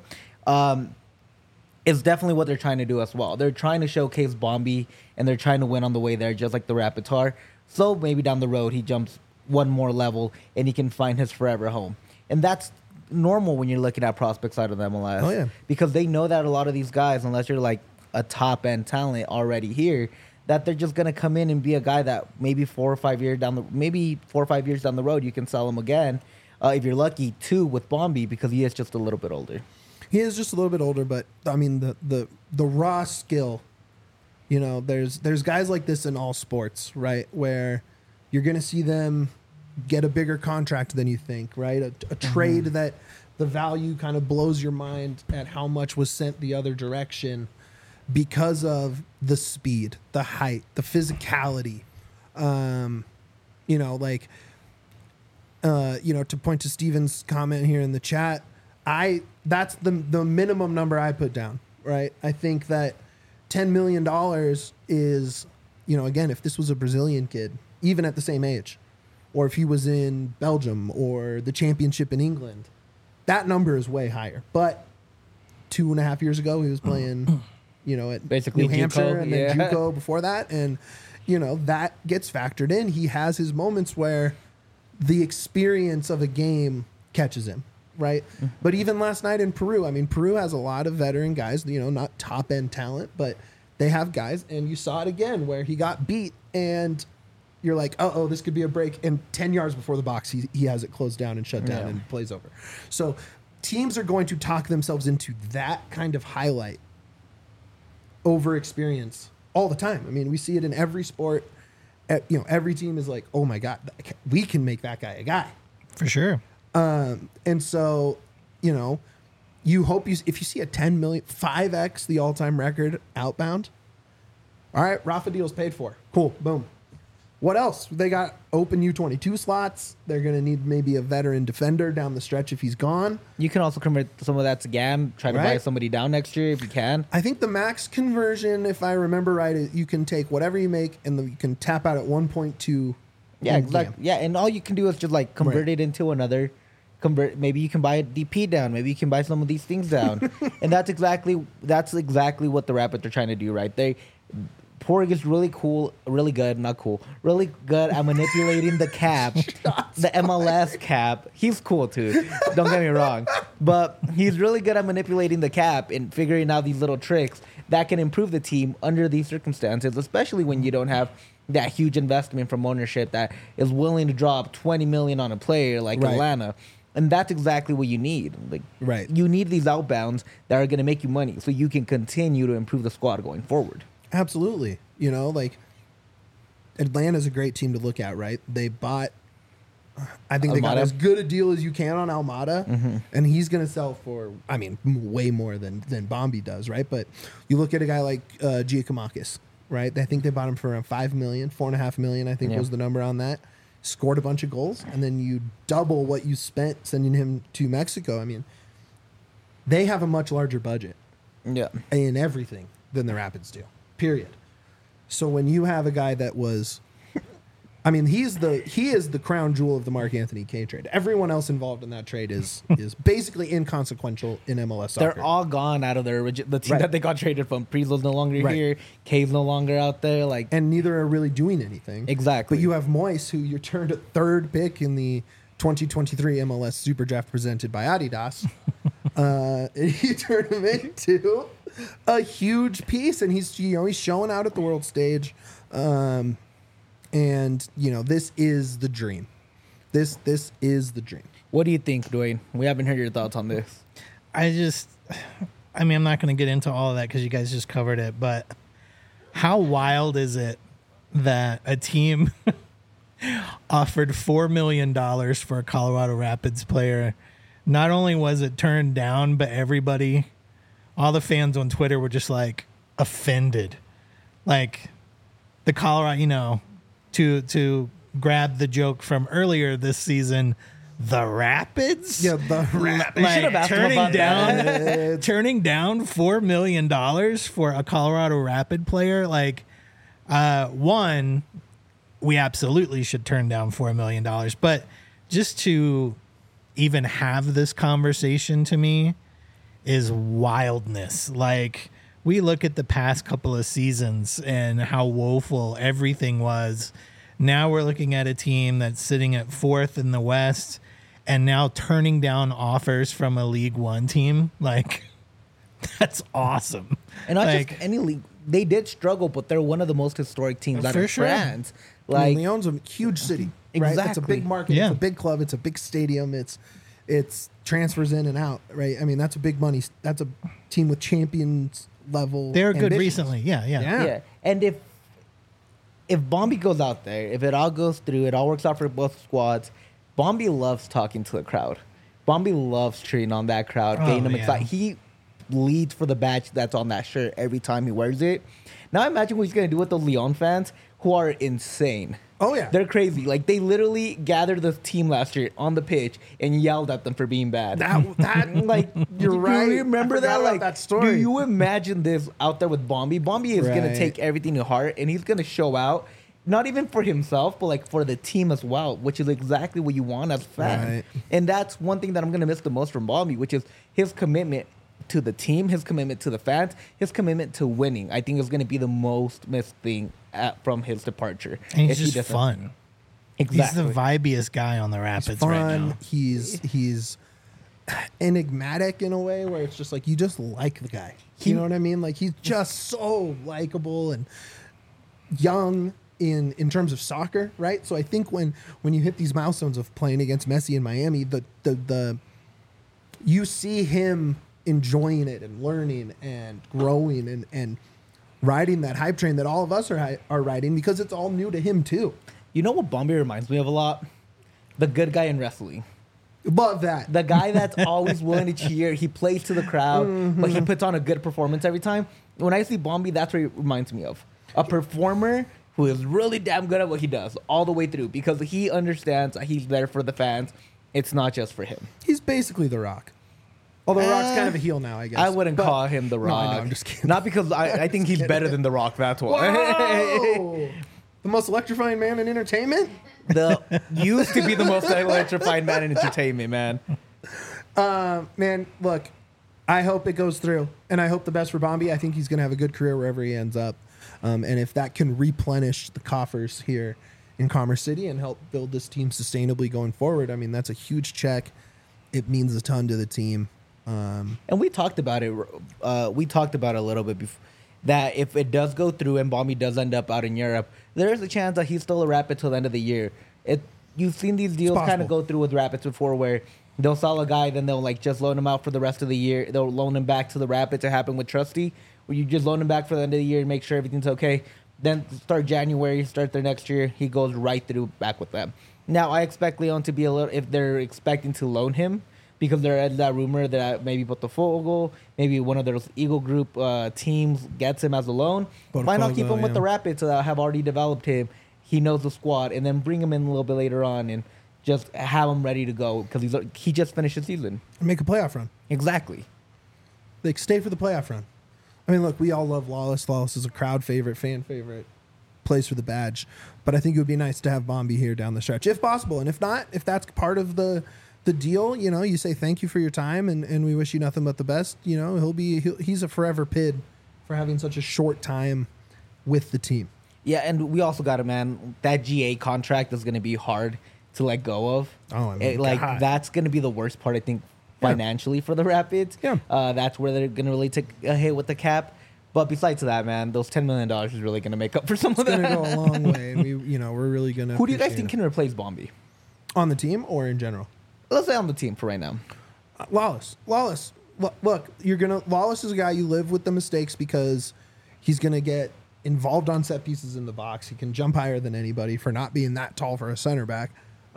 is definitely what they're trying to do as well. They're trying to showcase Bombi, and they're trying to win on the way there, just like the Rapids are. So maybe down the road, he jumps one more level, and he can find his forever home. And that's normal when you're looking at prospects out of the MLS. Oh, yeah. Because they know that a lot of these guys, unless you're like a top-end talent already here, that they're just going to come in and be a guy that maybe 4 or 5 years down the road, you can sell him again. If you're lucky, too, with Bombi, because he is just a little bit older. He is just a little bit older, but, I mean, the raw skill, there's guys like this in all sports, right, where you're going to see them get a bigger contract than you think, right? A trade that the value kind of blows your mind at how much was sent the other direction because of the speed, the height, the physicality. To point to Steven's comment here in the chat, that's the minimum number I put down, right? I think that $10 million is, again, if this was a Brazilian kid, even at the same age, or if he was in Belgium or the championship in England, that number is way higher. But 2.5 years ago, he was playing, at basically New Hampshire JUCO, and then JUCO before that. And, that gets factored in. He has his moments where the experience of a game catches him, right? But even last night in Peru, Peru has a lot of veteran guys, not top-end talent, but they have guys. And you saw it again where he got beat and you're like, this could be a break. And 10 yards before the box, he has it closed down and shut down and plays over. So teams are going to talk themselves into that kind of highlight over experience all the time. We see it in every sport. Every team is like, oh my God, we can make that guy a guy. For sure. And so, you hope if you see a 10 million, 5x the all-time record outbound, all right, Rafa deal's paid for. Cool, boom. What else? They got open U22 slots. They're going to need maybe a veteran defender down the stretch if he's gone. You can also convert some of that to GAM, try to buy somebody down next year if you can. I think the max conversion, if I remember right, is you can take whatever you make and you can tap out at 1.2. Yeah, exactly. Yeah, and all you can do is just like convert it into another. Maybe you can buy a DP down. Maybe you can buy some of these things down. And that's exactly what the Rapids are trying to do, right? Porig is really good at manipulating the cap, the MLS cap. He's cool too, don't get me wrong. But he's really good at manipulating the cap and figuring out these little tricks that can improve the team under these circumstances, especially when you don't have that huge investment from ownership that is willing to drop $20 million on a player like Atlanta. And that's exactly what you need. You need these outbounds that are going to make you money so you can continue to improve the squad going forward. Absolutely. Atlanta's a great team to look at, right? They bought, I think Almada. They got as good a deal as you can on Almada, and he's going to sell for, way more than Bombi does, right? But you look at a guy like Giacomakis, right? I think they bought him for around $5 million, $4.5 million, I think was the number on that. Scored a bunch of goals, and then you double what you spent sending him to Mexico. They have a much larger budget in everything than the Rapids do. Period. So when you have a guy that was, he is the crown jewel of the Mark Anthony Kane trade. Everyone else involved in that trade is basically inconsequential in MLS soccer. They're all gone out of the team that they got traded from. Prizo's no longer here. Kane's no longer out there. And neither are really doing anything. Exactly. But you have Moise, who you turned a third pick in the 2023 MLS Super Draft presented by Adidas. He turned him into a huge piece, and he's showing out at the world stage. And this is the dream This is the dream. What do you think, Dwayne? We haven't heard your thoughts on this. I mean, I'm not going to get into all of that because you guys just covered it, but how wild is it that a team offered $4 million for a Colorado Rapids player? Not only was it turned down, but all the fans on Twitter were just like offended. Like the Colorado, to grab the joke from earlier this season, the Rapids? Yeah, the Rapids. We should have asked him about that. Turning down $4 million for a Colorado Rapid player, like, one, we absolutely should turn down $4 million. But just to even have this conversation to me is wildness. Like, we look at the past couple of seasons and how woeful everything was. Now we're looking at a team that's sitting at 4th in the West and now turning down offers from a League One team. Like, that's awesome. And not Like, just any league. They did struggle, but they're one of the most historic teams out For of sure. France. I Like, mean, Lyon's a huge city, right? It's a Exactly. big market. Yeah. It's a big club. It's a big stadium. It's transfers in and out, right? I mean, that's a big money. That's a team with champions level. they were good ambitions. recently. Yeah. yeah. And if Bombi goes out there, if it all goes through, it all works out for both squads. Bombi loves talking to the crowd. Bombi loves cheering on that crowd, Oh, getting them yeah. excited. He leads for the badge that's on that shirt every time he wears it. Now imagine what he's gonna do with those Lyon fans who are insane. Oh yeah. They're crazy. Like, they literally gathered the team last year on the pitch and yelled at them for being bad. That Like, You're right. Do you remember I forgot that? about Like, that story. do you imagine this out there with Bombi? Bombi is gonna Right. take everything to heart and he's gonna show out, not even for himself, but like for the team as well, which is exactly what you want as a fan. Right. And that's one thing that I'm gonna miss the most from Bombi, which is his commitment to the team, his commitment to the fans, his commitment to winning. I think is gonna be the most missed thing from his departure. And he's if he just doesn't- fun. Exactly. He's the vibiest guy on the Rapids fun. right now. He's enigmatic in a way where it's just like you just like the guy. He- You know what I mean? Like he's just so likable and young in terms of soccer, right? So I think when you hit these milestones of playing against Messi in Miami, the you see him enjoying it and learning and growing and riding that hype train that all of us are riding because it's all new to him too. You know what Bombi reminds me of a lot? The good guy in wrestling. Love that. The guy that's always willing to cheer. He plays to the crowd, but he puts on a good performance every time. When I see Bombi, that's what he reminds me of. A performer who is really damn good at what he does all the way through because he understands that he's there for the fans. It's not just for him. He's basically The Rock. Although Rock's kind of a heel now, I guess. I wouldn't But- call him The No, I know, Rock. I'm just kidding. Not because I think he's better than The Rock, that's why. Whoa! The most electrifying man in entertainment? The used to be the most electrifying man in entertainment, man. Man, look, I hope it goes through. And I hope the best for Bombi. I think he's going to have a good career wherever he ends up. And if that can replenish the coffers here in Commerce City and help build this team sustainably going forward, I mean, that's a huge check. It means a ton to the team. And we talked about it. We talked about it a little bit before. That if it does go through and Bombi does end up out in Europe, there is a chance that he's still a Rapid till the end of the year. You've seen these deals kind of possible. go through with Rapids before, where they'll sell a guy, then they'll like just loan him out for the rest of the year. They'll loan him back to the Rapids. It happened with Trusty, where you just loan him back for the end of the year and make sure everything's okay. Then start January, start their next year, he goes right through back with them. Now I expect Leon to be a little, if they're expecting to loan him, because there is that rumor that maybe Botafogo, maybe one of those Eagle Group teams gets him as a loan. Why not keep Botafogo, him with yeah. the Rapids that have already developed him? He knows the squad, and then bring him in a little bit later on and just have him ready to go because he just finished the season. Make a playoff run. Exactly. Like, stay for the playoff run. I mean, look, we all love Lawless. Lawless is a crowd favorite, fan favorite, plays for the badge. But I think it would be nice to have Bombi here down the stretch, if possible. And if not, if that's part of the deal, you know, you say thank you for your time and we wish you nothing but the best. You know, he's a forever PID for having such a short time with the team. Yeah, and we also got that GA contract is going to be hard to let go of. Oh, I mean, God. That's going to be the worst part, I think, Yeah. financially for the Rapids. Yeah. That's where they're going to really take a hit with the cap. But besides that, man, those $10 million is really going to make up for some of It's that. going to go a long way. And we're really going to. Who do you guys think can replace Bombi? On the team or in general? Let's say on the team for right now. Lawless. Look, Lawless is a guy you live with the mistakes because he's gonna get involved on set pieces in the box. He can jump higher than anybody for not being that tall for a center back.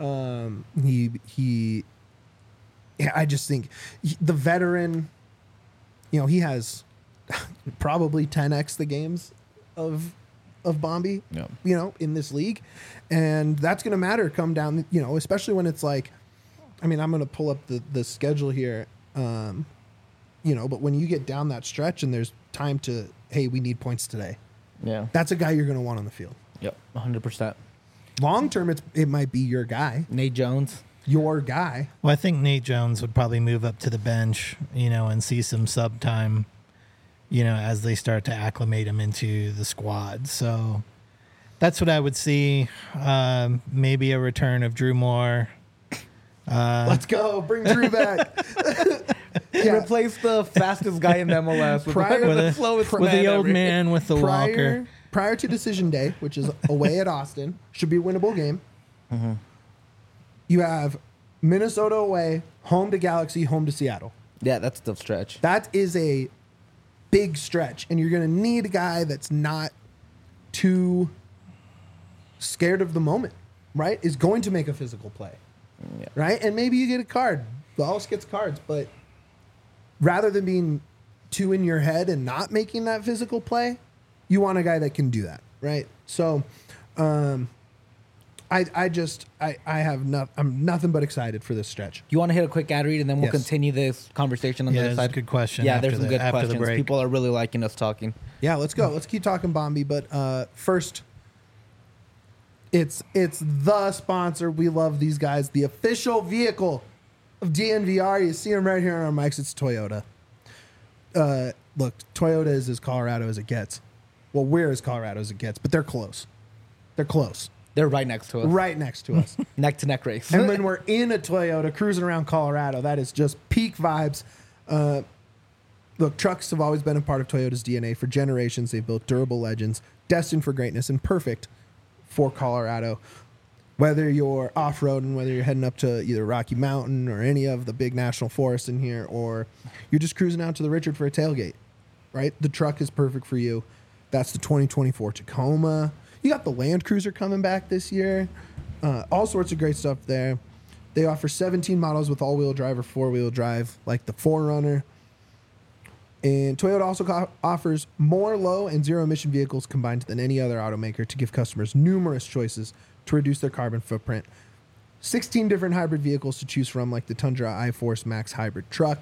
I just think the veteran, he has probably 10x the games of Bombi, in this league, and that's going to matter come down, especially when it's like, I'm going to pull up the schedule here, but when you get down that stretch and there's time to, hey, we need points today. Yeah. That's a guy you're going to want on the field. Yep. 100%. Long term, it might be your guy. Nate Jones. Your guy. Well, I think Nate Jones would probably move up to the bench, and see some sub time, as they start to acclimate him into the squad. So that's what I would see. Maybe a return of Drew Moore. Let's go. Bring Drew back. Replace the fastest guy in MLS with the slowest with man the old ever. man with the walker. Prior to decision day, which is away at Austin, should be a winnable game. Mm-hmm. You have Minnesota away, home to Galaxy, home to Seattle. Yeah, that's the stretch. That is a big stretch, and you're going to need a guy that's not too scared of the moment, right? Is going to make a physical play, right? And maybe you get a card. Wallace gets cards, but rather than being too in your head and not making that physical play, you want a guy that can do that, right? So, I'm nothing but excited for this stretch. You want to hit a quick ad read, and then we'll Yes. continue this conversation on the other that's a side? good question. Yeah, after there's some the- good after the questions. break. People are really liking us talking. Yeah, let's go. Let's keep talking Bombi, but first, it's the sponsor. We love these guys. The official vehicle of DNVR. You see them right here on our mics. It's Toyota. Look, Toyota is as Colorado as it gets. Well, we're as Colorado as it gets, but they're close. They're close. They're right next to us. Right next to us. Neck to neck race. And when we're in a Toyota cruising around Colorado, that is just peak vibes. Look, trucks have always been a part of Toyota's DNA. For generations, they've built durable legends, destined for greatness and perfect for Colorado. Whether you're off-roading, whether you're heading up to either Rocky Mountain or any of the big national forests in here, or you're just cruising out to the Richard for a tailgate, right? The truck is perfect for you. That's the 2024 Tacoma. You got the Land Cruiser coming back this year. All sorts of great stuff there. They offer 17 models with all-wheel drive or four-wheel drive, like the 4Runner. And Toyota also offers more low and zero-emission vehicles combined than any other automaker to give customers numerous choices to reduce their carbon footprint. 16 different hybrid vehicles to choose from, like the Tundra iForce Max hybrid truck.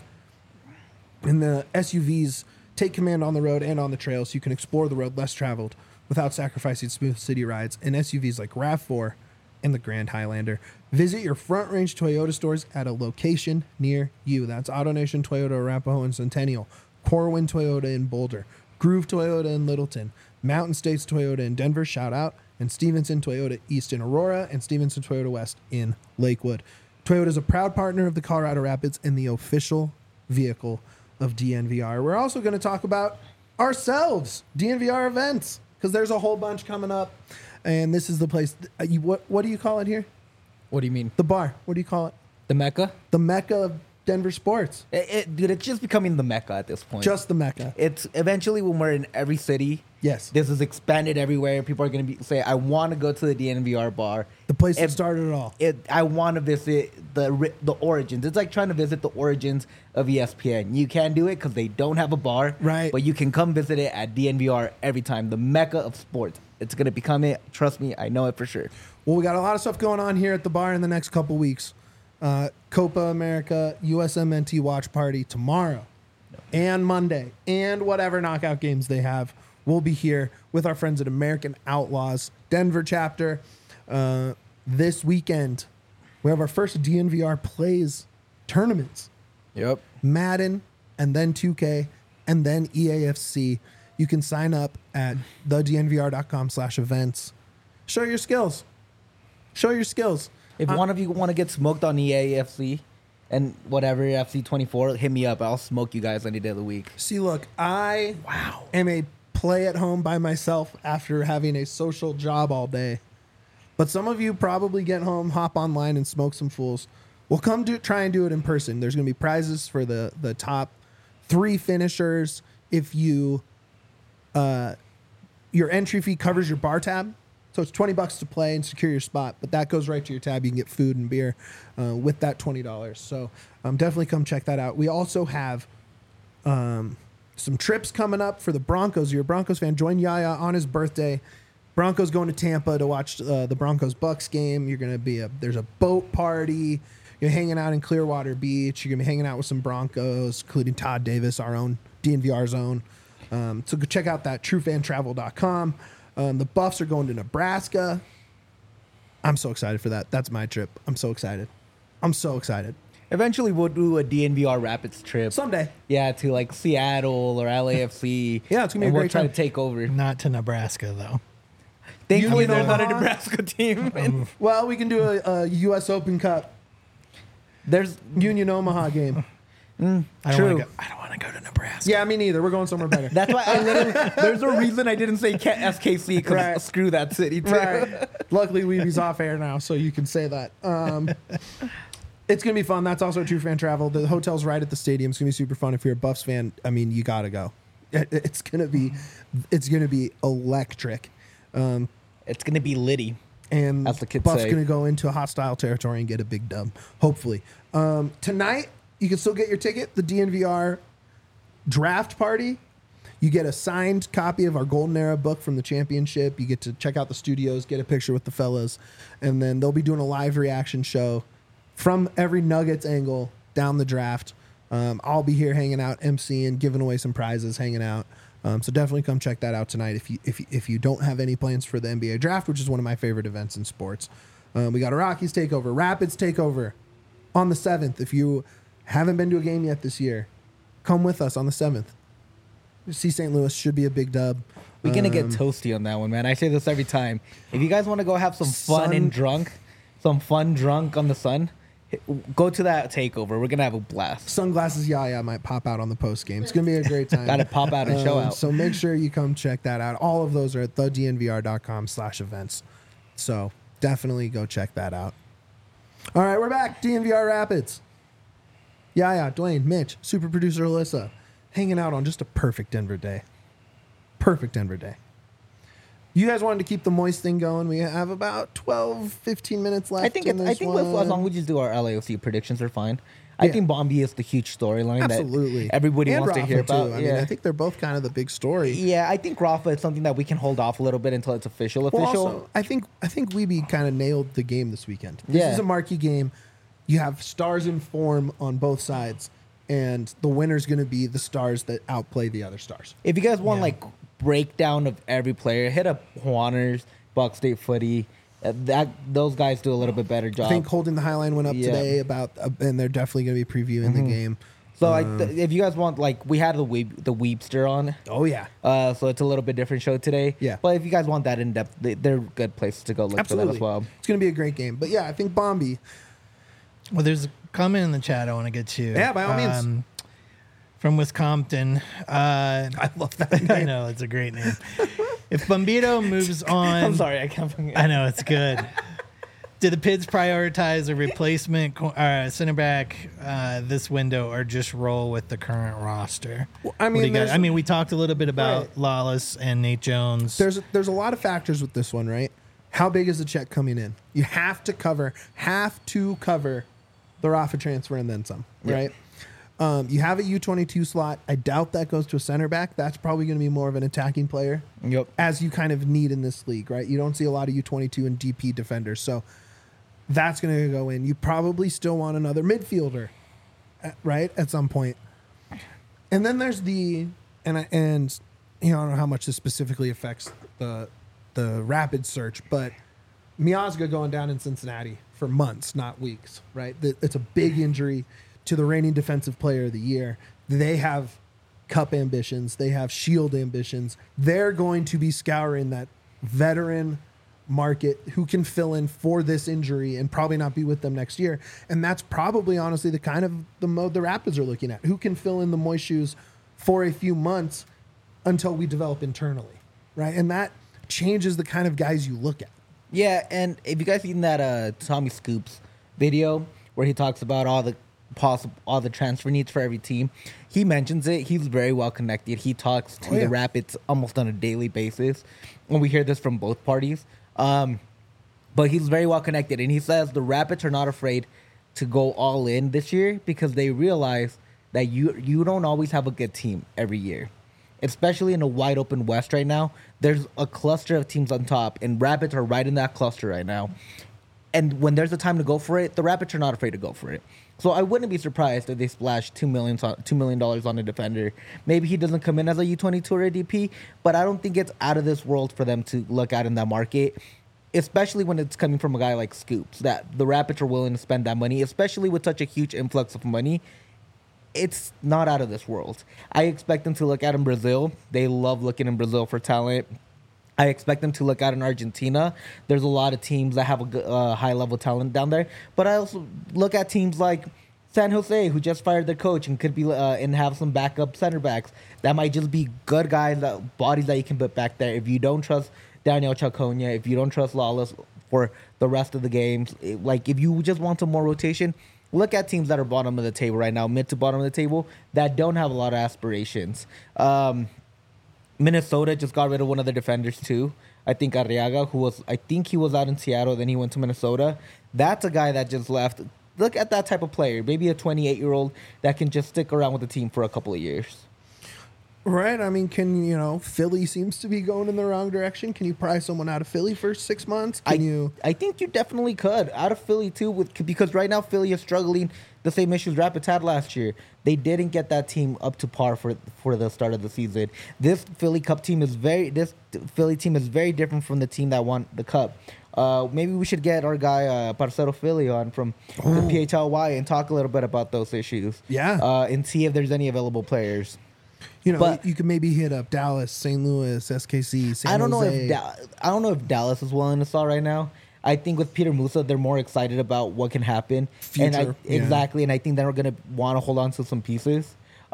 And the SUVs take command on the road and on the trail, so you can explore the road less traveled without sacrificing smooth city rides. And SUVs like RAV4 and the Grand Highlander. Visit your Front Range Toyota stores at a location near you. That's AutoNation Toyota Arapahoe and Centennial, Corwin Toyota in Boulder, Groove Toyota in Littleton, Mountain States Toyota in Denver, shout out, and Stevenson Toyota East in Aurora, and Stevenson Toyota West in Lakewood. Toyota is a proud partner of the Colorado Rapids and the official vehicle of DNVR. We're also going to talk about ourselves, DNVR events, because there's a whole bunch coming up, and this is the place. What do you call it here? What do you mean? The bar. What do you call it? The Mecca? The Mecca of Denver sports. Dude, it's just becoming the Mecca at this point. Just the Mecca. It's eventually when we're in every city. Yes. This is expanded everywhere. People are going to say, I want to go to the DNVR bar. The place that It- started it all. I want to visit the origins. It's like trying to visit the origins of ESPN. You can't do it because they don't have a bar. Right. But you can come visit it at DNVR every time. The Mecca of sports. It's going to become it. Trust me, I know it for sure. Well, we got a lot of stuff going on here at the bar in the next couple weeks. Copa America, USMNT watch party tomorrow and Monday, and whatever knockout games they have. We'll be here with our friends at American Outlaws Denver chapter. This weekend, we have our first DNVR Plays tournaments. Yep. Madden, and then 2K, and then EAFC. You can sign up at thednvr.com/events. Show your skills. Show your skills. If one of you want to get smoked on EAFC and whatever, FC 24, hit me up. I'll smoke you guys any day of the week. See, look, I am a play at home by myself after having a social job all day. But some of you probably get home, hop online, and smoke some fools. We'll try and do it in person. There's going to be prizes for the top 3 finishers. If you your entry fee covers your bar tab, so it's $20 to play and secure your spot. But that goes right to your tab. You can get food and beer with that $20. So definitely come check that out. We also have some trips coming up for the Broncos. You're a Broncos fan. Join Yaya on his birthday. Broncos going to Tampa to watch the Broncos-Bucks game. You're going to there's a boat party. You're hanging out in Clearwater Beach. You're going to be hanging out with some Broncos, including Todd Davis, our own DNVR zone. So go check out that truefantravel.com. The Buffs are going to Nebraska. I'm so excited for that. That's my trip. I'm so excited. Eventually, we'll do a DNVR Rapids trip. Someday. Yeah, to like Seattle or LAFC. Yeah, it's going to be a we'll great try time. to take over. Not to Nebraska, though. Thankfully, You there's know not a what? Nebraska team. Well, we can do a U.S. Open Cup There's Union Omaha game. I don't True. want to go to Nebraska. Yeah, me neither. We're going somewhere better. That's why I literally. There's a reason I didn't say SKC because Right. screw that city too. Right. Luckily, Weeby's off air now, so you can say that. It's going to be fun. That's also True Fan Travel. The hotel's right at the stadium. It's going to be super fun. If you're a Buffs fan, I mean, you got to go. It's going to be electric. It's gonna be litty. And As the kids Buffs say. going to go into a hostile territory and get a big dub, hopefully. Tonight, you can still get your ticket. The DNVR draft party. You get a signed copy of our Golden Era book from the championship. You get to check out the studios, get a picture with the fellas, and then they'll be doing a live reaction show from every Nuggets angle down the draft. I'll be here hanging out, emceeing, giving away some prizes, hanging out. So definitely come check that out tonight if you don't have any plans for the NBA draft, which is one of my favorite events in sports. We got a Rockies takeover, Rapids takeover on the 7th. If you haven't been to a game yet this year, come with us on the 7th. See St. Louis, should be a big dub. We're gonna get toasty on that one, man. I say this every time. If you guys want to go have some fun and drunk on the sun, go to that takeover. We're gonna have a blast. Sunglasses Yaya might pop out on the post game. It's gonna be a great time. Gotta pop out and show out. So make sure you come check that out. All of those are at thednvr.com/events. So definitely go check that out. All right, we're back. DNVR Rapids. Yaya, Dwayne, Mitch, super producer Alyssa, hanging out on just a perfect Denver day. Perfect Denver day. You guys wanted to keep the moist thing going. We have about 12, 15 minutes left. I think as long as we just do our LAFC predictions are fine. I Yeah. think Bombi is the huge storyline absolutely that everybody And wants to Rafa, hear about. too. I mean, I think they're both kind of the big story. Yeah, I think Rafa is something that we can hold off a little bit until it's official. Well, also, I think Weeby kind of nailed the game this weekend. This Yeah. is a marquee game. You have stars in form on both sides, and the winner's going to be the stars that outplay the other stars. If you guys want like breakdown of every player, hit up Juaners, Buck State Footy. Those guys do a little bit better job. I think Holding the Highline went up Yeah. today and they're definitely going to be previewing the game. So if you guys want, like, we had the Weebster on, Oh yeah, so it's a little bit different show today. Yeah. But if you guys want that in depth, they're good places to go look for that absolutely. as well. It's going to be a great game. But yeah, I think Bombi. Well, there's a comment in the chat I want to get to. Yeah, by all means. From Wisconsin. I love that I name. know, it's a great name. If Bombito moves on. I'm sorry, I can't. I know, it's good. Do the Pids prioritize a replacement center back this window or just roll with the current roster? I What do mean, you got? there's- I mean, we talked a little bit about Right. Lawless and Nate Jones. There's a lot of factors with this one, right? How big is the check coming in? You have to cover the Rafa transfer and then some, right? You have a U22 slot. I doubt that goes to a center back. That's probably going to be more of an attacking player, Yep. as you kind of need in this league, right? You don't see a lot of U22 and DP defenders, so that's going to go in. You probably still want another midfielder, right? At some point. And then there's I don't know how much this specifically affects the Rapid search, but Miazga going down in Cincinnati for months, not weeks, right? It's a big injury to the reigning defensive player of the year. They have cup ambitions. They have shield ambitions. They're going to be scouring that veteran market who can fill in for this injury and probably not be with them next year. And that's probably honestly the kind of the mode the Rapids are looking at. Who can fill in the moist shoes for a few months until we develop internally, right? And that changes the kind of guys you look at. Yeah, and if you guys seen that Tommy Scoops video where he talks about all the transfer needs for every team, he mentions it. He's very well connected. He talks to the Rapids almost on a daily basis, and we hear this from both parties. But he's very well connected, and he says the Rapids are not afraid to go all in this year because they realize that you don't always have a good team every year, especially in a wide open West right now. There's a cluster of teams on top, and Rapids are right in that cluster right now. And when there's a time to go for it, the Rapids are not afraid to go for it. So I wouldn't be surprised if they splash $2 million on a defender. Maybe he doesn't come in as a U22 or a DP, but I don't think it's out of this world for them to look at in that market, especially when it's coming from a guy like Scoops, that the Rapids are willing to spend that money, especially with such a huge influx of money. It's not out of this world. I expect them to look at in Brazil. They love looking in Brazil for talent. I expect them to look out in Argentina. There's a lot of teams that have a high-level talent down there. But I also look at teams like San Jose, who just fired their coach and could be and have some backup center backs. That might just be good guys, bodies that you can put back there. If you don't trust Daniel Chacona, if you don't trust Lawless for the rest of the games, if you just want some more rotation, look at teams that are bottom of the table right now, mid to bottom of the table, that don't have a lot of aspirations. Minnesota just got rid of one of their defenders too. I think Arriaga, he was out in Seattle, then he went to Minnesota. That's a guy that just left. Look at that type of player, maybe a 28-year-old that can just stick around with the team for a couple of years. Right. I mean, Philly seems to be going in the wrong direction. Can you pry someone out of Philly for 6 months? I think you definitely could. Out of Philly, too, because right now Philly is struggling the same issues Rapids had last year. They didn't get that team up to par for the start of the season. This Philly team is very different from the team that won the Cup. Maybe we should get our guy Parcero Philly on from the PHLY and talk a little bit about those issues. Yeah. And see if there's any available players. You could maybe hit up Dallas, St. Louis, SKC, San Jose. I don't know if Dallas is willing to sell right now. I think with Peter Musa, they're more excited about what can happen. Exactly, and I think they're going to want to hold on to some pieces.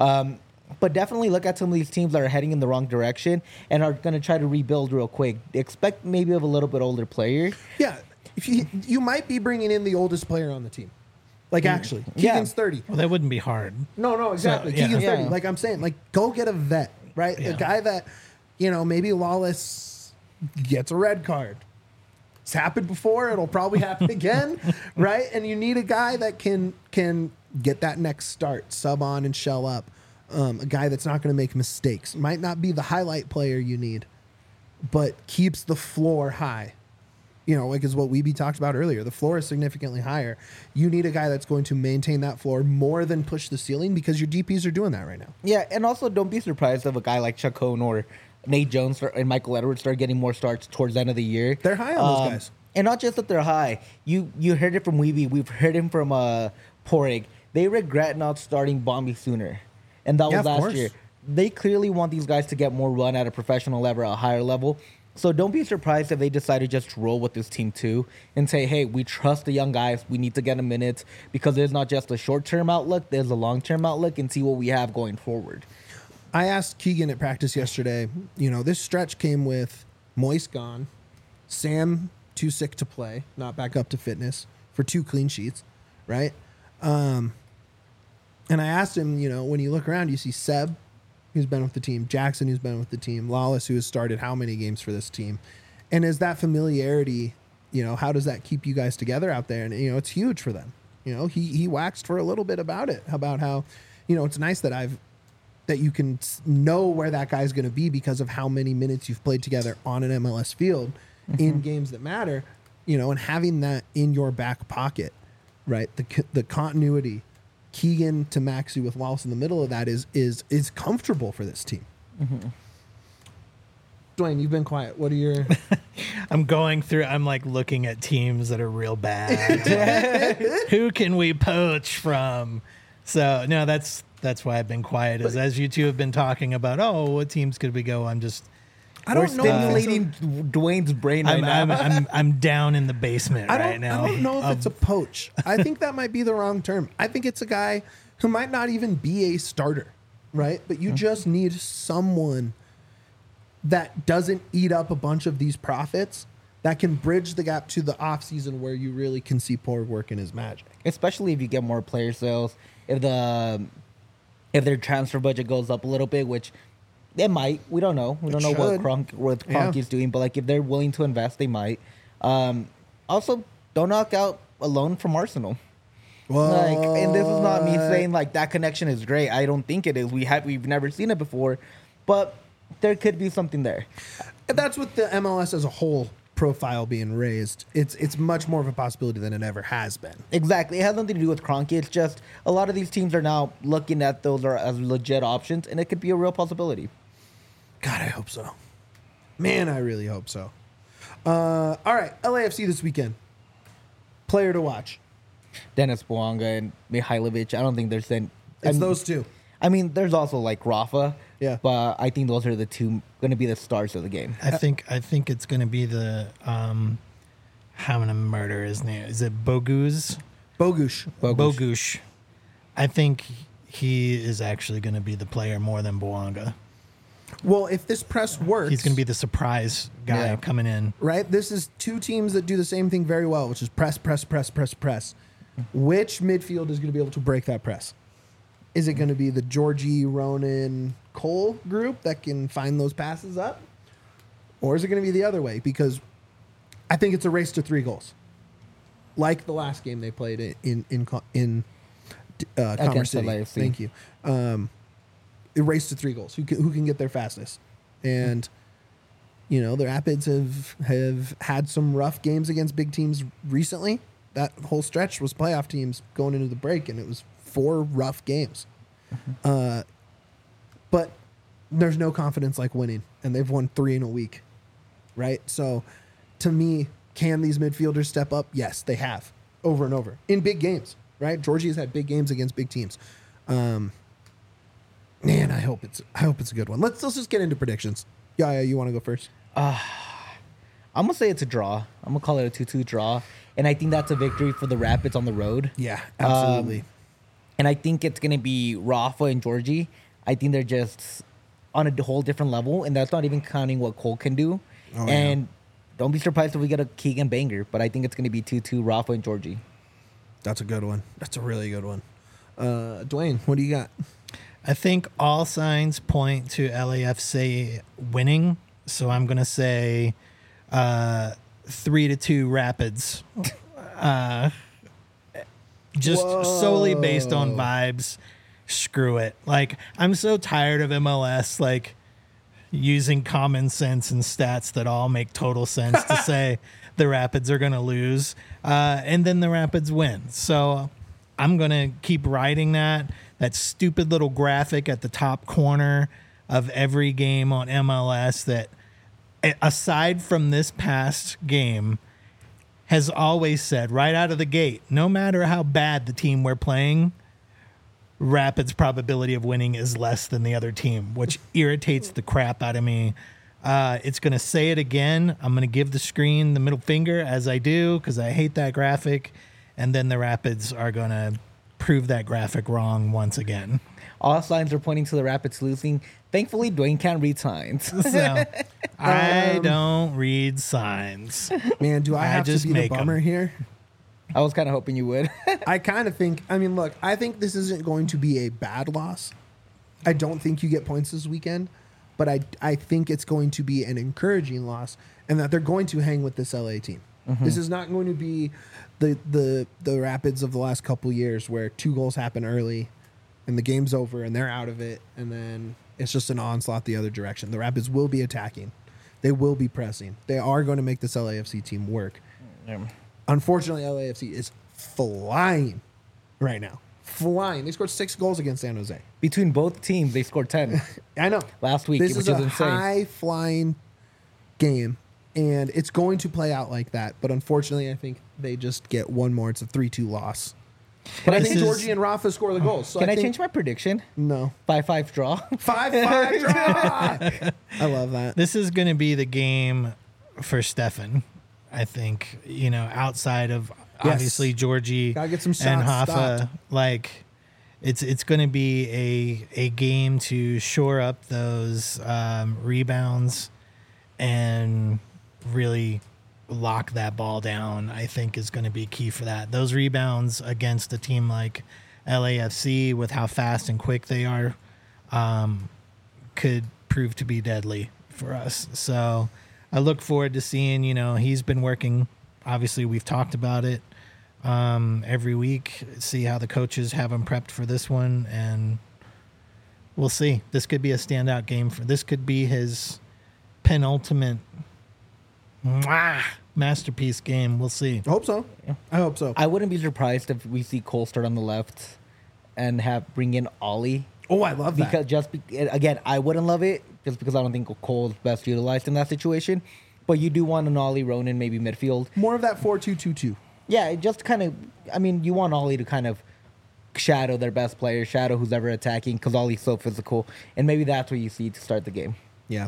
But definitely look at some of these teams that are heading in the wrong direction and are going to try to rebuild real quick. Expect maybe of a little bit older player. Yeah, if you might be bringing in the oldest player on the team. Actually, Keegan's 30. Well, that wouldn't be hard. No, exactly. So, yeah. Keegan's 30. Like I'm saying, go get a vet, right? Yeah. A guy that, maybe Lawless gets a red card. It's happened before. It'll probably happen again, right? And you need a guy that can get that next start, sub on and shell up. A guy that's not going to make mistakes. Might not be the highlight player you need, but keeps the floor high. Is what Weeby talked about earlier. The floor is significantly higher. You need a guy that's going to maintain that floor more than push the ceiling because your DPs are doing that right now. Yeah, and also don't be surprised if a guy like Chacon or Nate Jones and Michael Edwards start getting more starts towards the end of the year. They're high on those guys. And not just that they're high. You heard it from Weeby. We've heard him from Porig. They regret not starting Bombi sooner. And that was last year. They clearly want these guys to get more run at a professional level, a higher level. So don't be surprised if they decide to just roll with this team too and say, hey, we trust the young guys. We need to get them minutes because there's not just a short-term outlook. There's a long-term outlook and see what we have going forward. I asked Keegan at practice yesterday, this stretch came with Moise gone, Sam too sick to play, not back up to fitness for 2 clean sheets, right? And I asked him, when you look around, you see Seb, who's been with the team, Jackson, who's been with the team, Lawless, who has started how many games for this team. And is that familiarity, how does that keep you guys together out there? And, it's huge for them. He waxed for a little bit about it, about how, it's nice that you can know where that guy's going to be because of how many minutes you've played together on an MLS field in games that matter, and having that in your back pocket, right? The continuity, Keegan to Maxi with Wallace in the middle of that is comfortable for this team. Mm-hmm. Dwayne, you've been quiet. What are your... I'm looking at teams that are real bad. Who can we poach from? So, no, that's why I've been quiet. As you two have been talking about, what teams could we go? We're stimulating Dwayne's brain right now. I'm down in the basement right now. I don't know if it's a poach. I think that might be the wrong term. I think it's a guy who might not even be a starter, right? But you just need someone that doesn't eat up a bunch of these profits that can bridge the gap to the offseason where you really can see Poor working his magic. Especially if you get more player sales, if their transfer budget goes up a little bit, which it might. We don't know. We don't know what Kroenke's doing, but like if they're willing to invest, they might. Also, don't knock out a loan from Arsenal. Like, and this is not me saying like that connection is great. I don't think it is. We've never seen it before, but there could be something there. That's with the MLS as a whole profile being raised. It's much more of a possibility than it ever has been. Exactly. It has nothing to do with Kroenke. It's just a lot of these teams are now looking at those as legit options, and it could be a real possibility. God, I hope so. Man, I really hope so. All right, LAFC this weekend. Player to watch. Dennis Bouanga and Mihailovic. I don't think there's It's those two. I mean, there's also like Rafa. Yeah. But I think those are the two going to be the stars of the game. I think it's going to be the how to murder his name. Is it Bogusz? Bogusz. I think he is actually going to be the player more than Bouanga. Well, if this press works, He's going to be the surprise guy coming in. right? This is two teams that do the same thing very well, which is press. Which midfield is going to be able to break that press? Is it going to be the Georgie, Ronan, Cole group that can find those passes up? Or is it going to be the other way? Because I think it's a race to 3 goals. Like the last game they played in Commerce City. LAFC. Thank you. It raced to 3 goals. Who can get there fastest? And you know, the Rapids have had some rough games against big teams recently. That whole stretch was playoff teams going into the break, and it was 4 rough games. But there's no confidence like winning, and they've won 3 in a week, right? So, to me, can these midfielders step up? Yes, they have, over and over in big games, right? Georgie has had big games against big teams. Man, I hope it's a good one. Let's just get into predictions. Yeah, you want to go first? I'm going to say it's a draw. I'm going to call it a 2-2 draw. And I think that's a victory for the Rapids on the road. Yeah, absolutely. And I think it's going to be Rafa and Georgie. I think they're just on a whole different level. And that's not even counting what Cole can do. Oh, and don't be surprised if we get a Keegan banger. But I think it's going to be 2-2 Rafa and Georgie. That's a good one. That's a really good one. Dwayne, what do you got? I think all signs point to LAFC winning. So I'm going to say 3-2 Rapids. Just solely based on vibes. Screw it. Like, I'm so tired of MLS like using common sense and stats that all make total sense to say the Rapids are going to lose, and then the Rapids win. So I'm going to keep riding that stupid little graphic at the top corner of every game on MLS that, aside from this past game, has always said right out of the gate, no matter how bad the team we're playing, Rapids' probability of winning is less than the other team, which irritates the crap out of me. It's going to say it again. I'm going to give the screen the middle finger as I do because I hate that graphic. And then the Rapids are going to prove that graphic wrong once again. All signs are pointing to the Rapids losing. Thankfully, Dwayne can't read signs. So I don't read signs. Man, do I have to be the bummer here? I was kind of hoping you would. I kind of think, I mean, look, I think this isn't going to be a bad loss. I don't think you get points this weekend, but I think it's going to be an encouraging loss and that they're going to hang with this LA team. Mm-hmm. This is not going to be the Rapids of the last couple years where 2 goals happen early and the game's over and they're out of it and then it's just an onslaught the other direction. The Rapids will be attacking. They will be pressing. They are going to make this LAFC team work. Yeah. Unfortunately, LAFC is flying right now. Flying. They scored 6 goals against San Jose. Between both teams, they scored 10. I know. Last week, This which is a insane. high-flying game, and it's going to play out like that. But unfortunately, I think they just get one more. It's a 3-2 loss. But I think Georgie and Rafa score the goals. So Can I think, change my prediction? No. 5-5 draw. 5-5 draw. I love that. This is going to be the game for Stefan, I think, you know, outside of obviously Georgie Gotta get some shots and Hoffa. stopped. Like, it's going to be a game to shore up those rebounds and really lock that ball down, I think is going to be key for that. Those rebounds against a team like LAFC, with how fast and quick they are, could prove to be deadly for us. So I look forward to seeing, he's been working. Obviously, we've talked about it every week, see how the coaches have him prepped for this one, and we'll see. This could be a standout game. This could be his penultimate masterpiece game. We'll see. I hope so. Yeah. I hope so. I wouldn't be surprised if we see Cole start on the left and bring in Ollie. Oh, I love that. Because again, I wouldn't love it just because I don't think Cole's best utilized in that situation. But you do want an Ollie Ronan, maybe midfield. More of that 4-2-2-2. Yeah, just kind of. I mean, you want Ollie to kind of shadow their best player, shadow who's ever attacking, because Ollie's so physical, and maybe that's what you see to start the game. Yeah.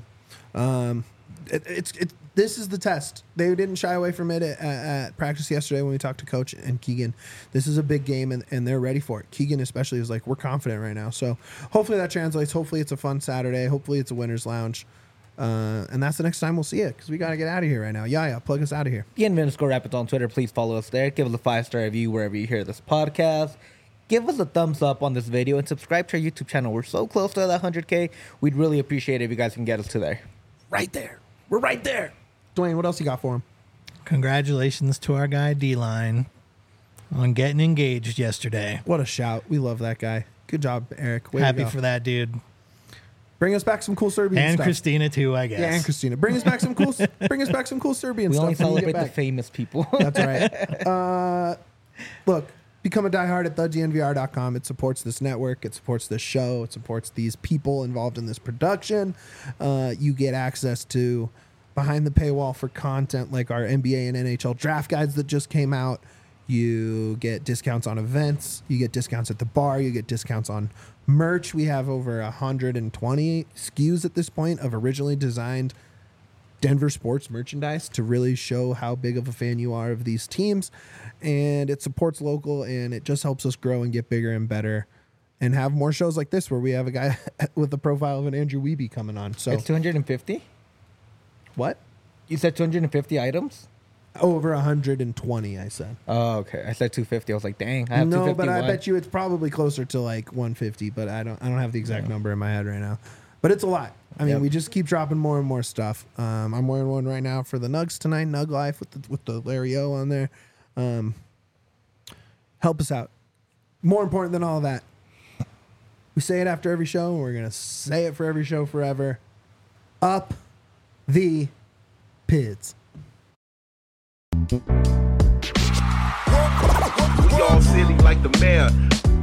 This is the test. They didn't shy away from it at practice yesterday when we talked to Coach and Keegan. This is a big game, and they're ready for it. Keegan especially is like, we're confident right now. So hopefully that translates. Hopefully it's a fun Saturday. Hopefully it's a winner's lounge. And that's the next time we'll see it, because we got to get out of here right now. Yeah, plug us out of here. _Rapids on Twitter. Please follow us there. Give us a 5-star review wherever you hear this podcast. Give us a thumbs up on this video and subscribe to our YouTube channel. We're so close to that 100K. We'd really appreciate it if you guys can get us to there. Right there. We're right there. Dwayne, what else you got for him? Congratulations to our guy D-Line on getting engaged yesterday. What a shout. We love that guy. Good job, Eric. Way Happy to go. for that dude. Bring us back some cool Serbian And stuff. Christina too, I guess. Yeah, and Christina. Bring us back some cool Serbian We stuff. only when we get celebrate the back. famous people. That's right. Look, become a diehard at thednvr.com. It supports this network. It supports this show. It supports these people involved in this production. You get access to behind the paywall for content like our NBA and NHL draft guides that just came out. You get discounts on events. You get discounts at the bar. You get discounts on merch. We have over 120 SKUs at this point of originally designed Denver sports merchandise to really show how big of a fan you are of these teams. And it supports local, and it just helps us grow and get bigger and better and have more shows like this where we have a guy with the profile of an Andrew Wiebe coming on. So It's 250? what? You said 250 items? Over 120, I said. Oh, okay. I said 250. I was like, dang, I have No, 250. but I Why? bet you it's probably closer to like 150, but I don't have the exact number in my head right now. But it's a lot. I mean, Yep. we just keep dropping more and more stuff. I'm wearing one right now for the Nugs tonight, Nug Life with the Larry O on there. Help us out. More important than all that, we say it after every show, and we're gonna say it for every show forever. Up the Pids. We all silly like the mayor.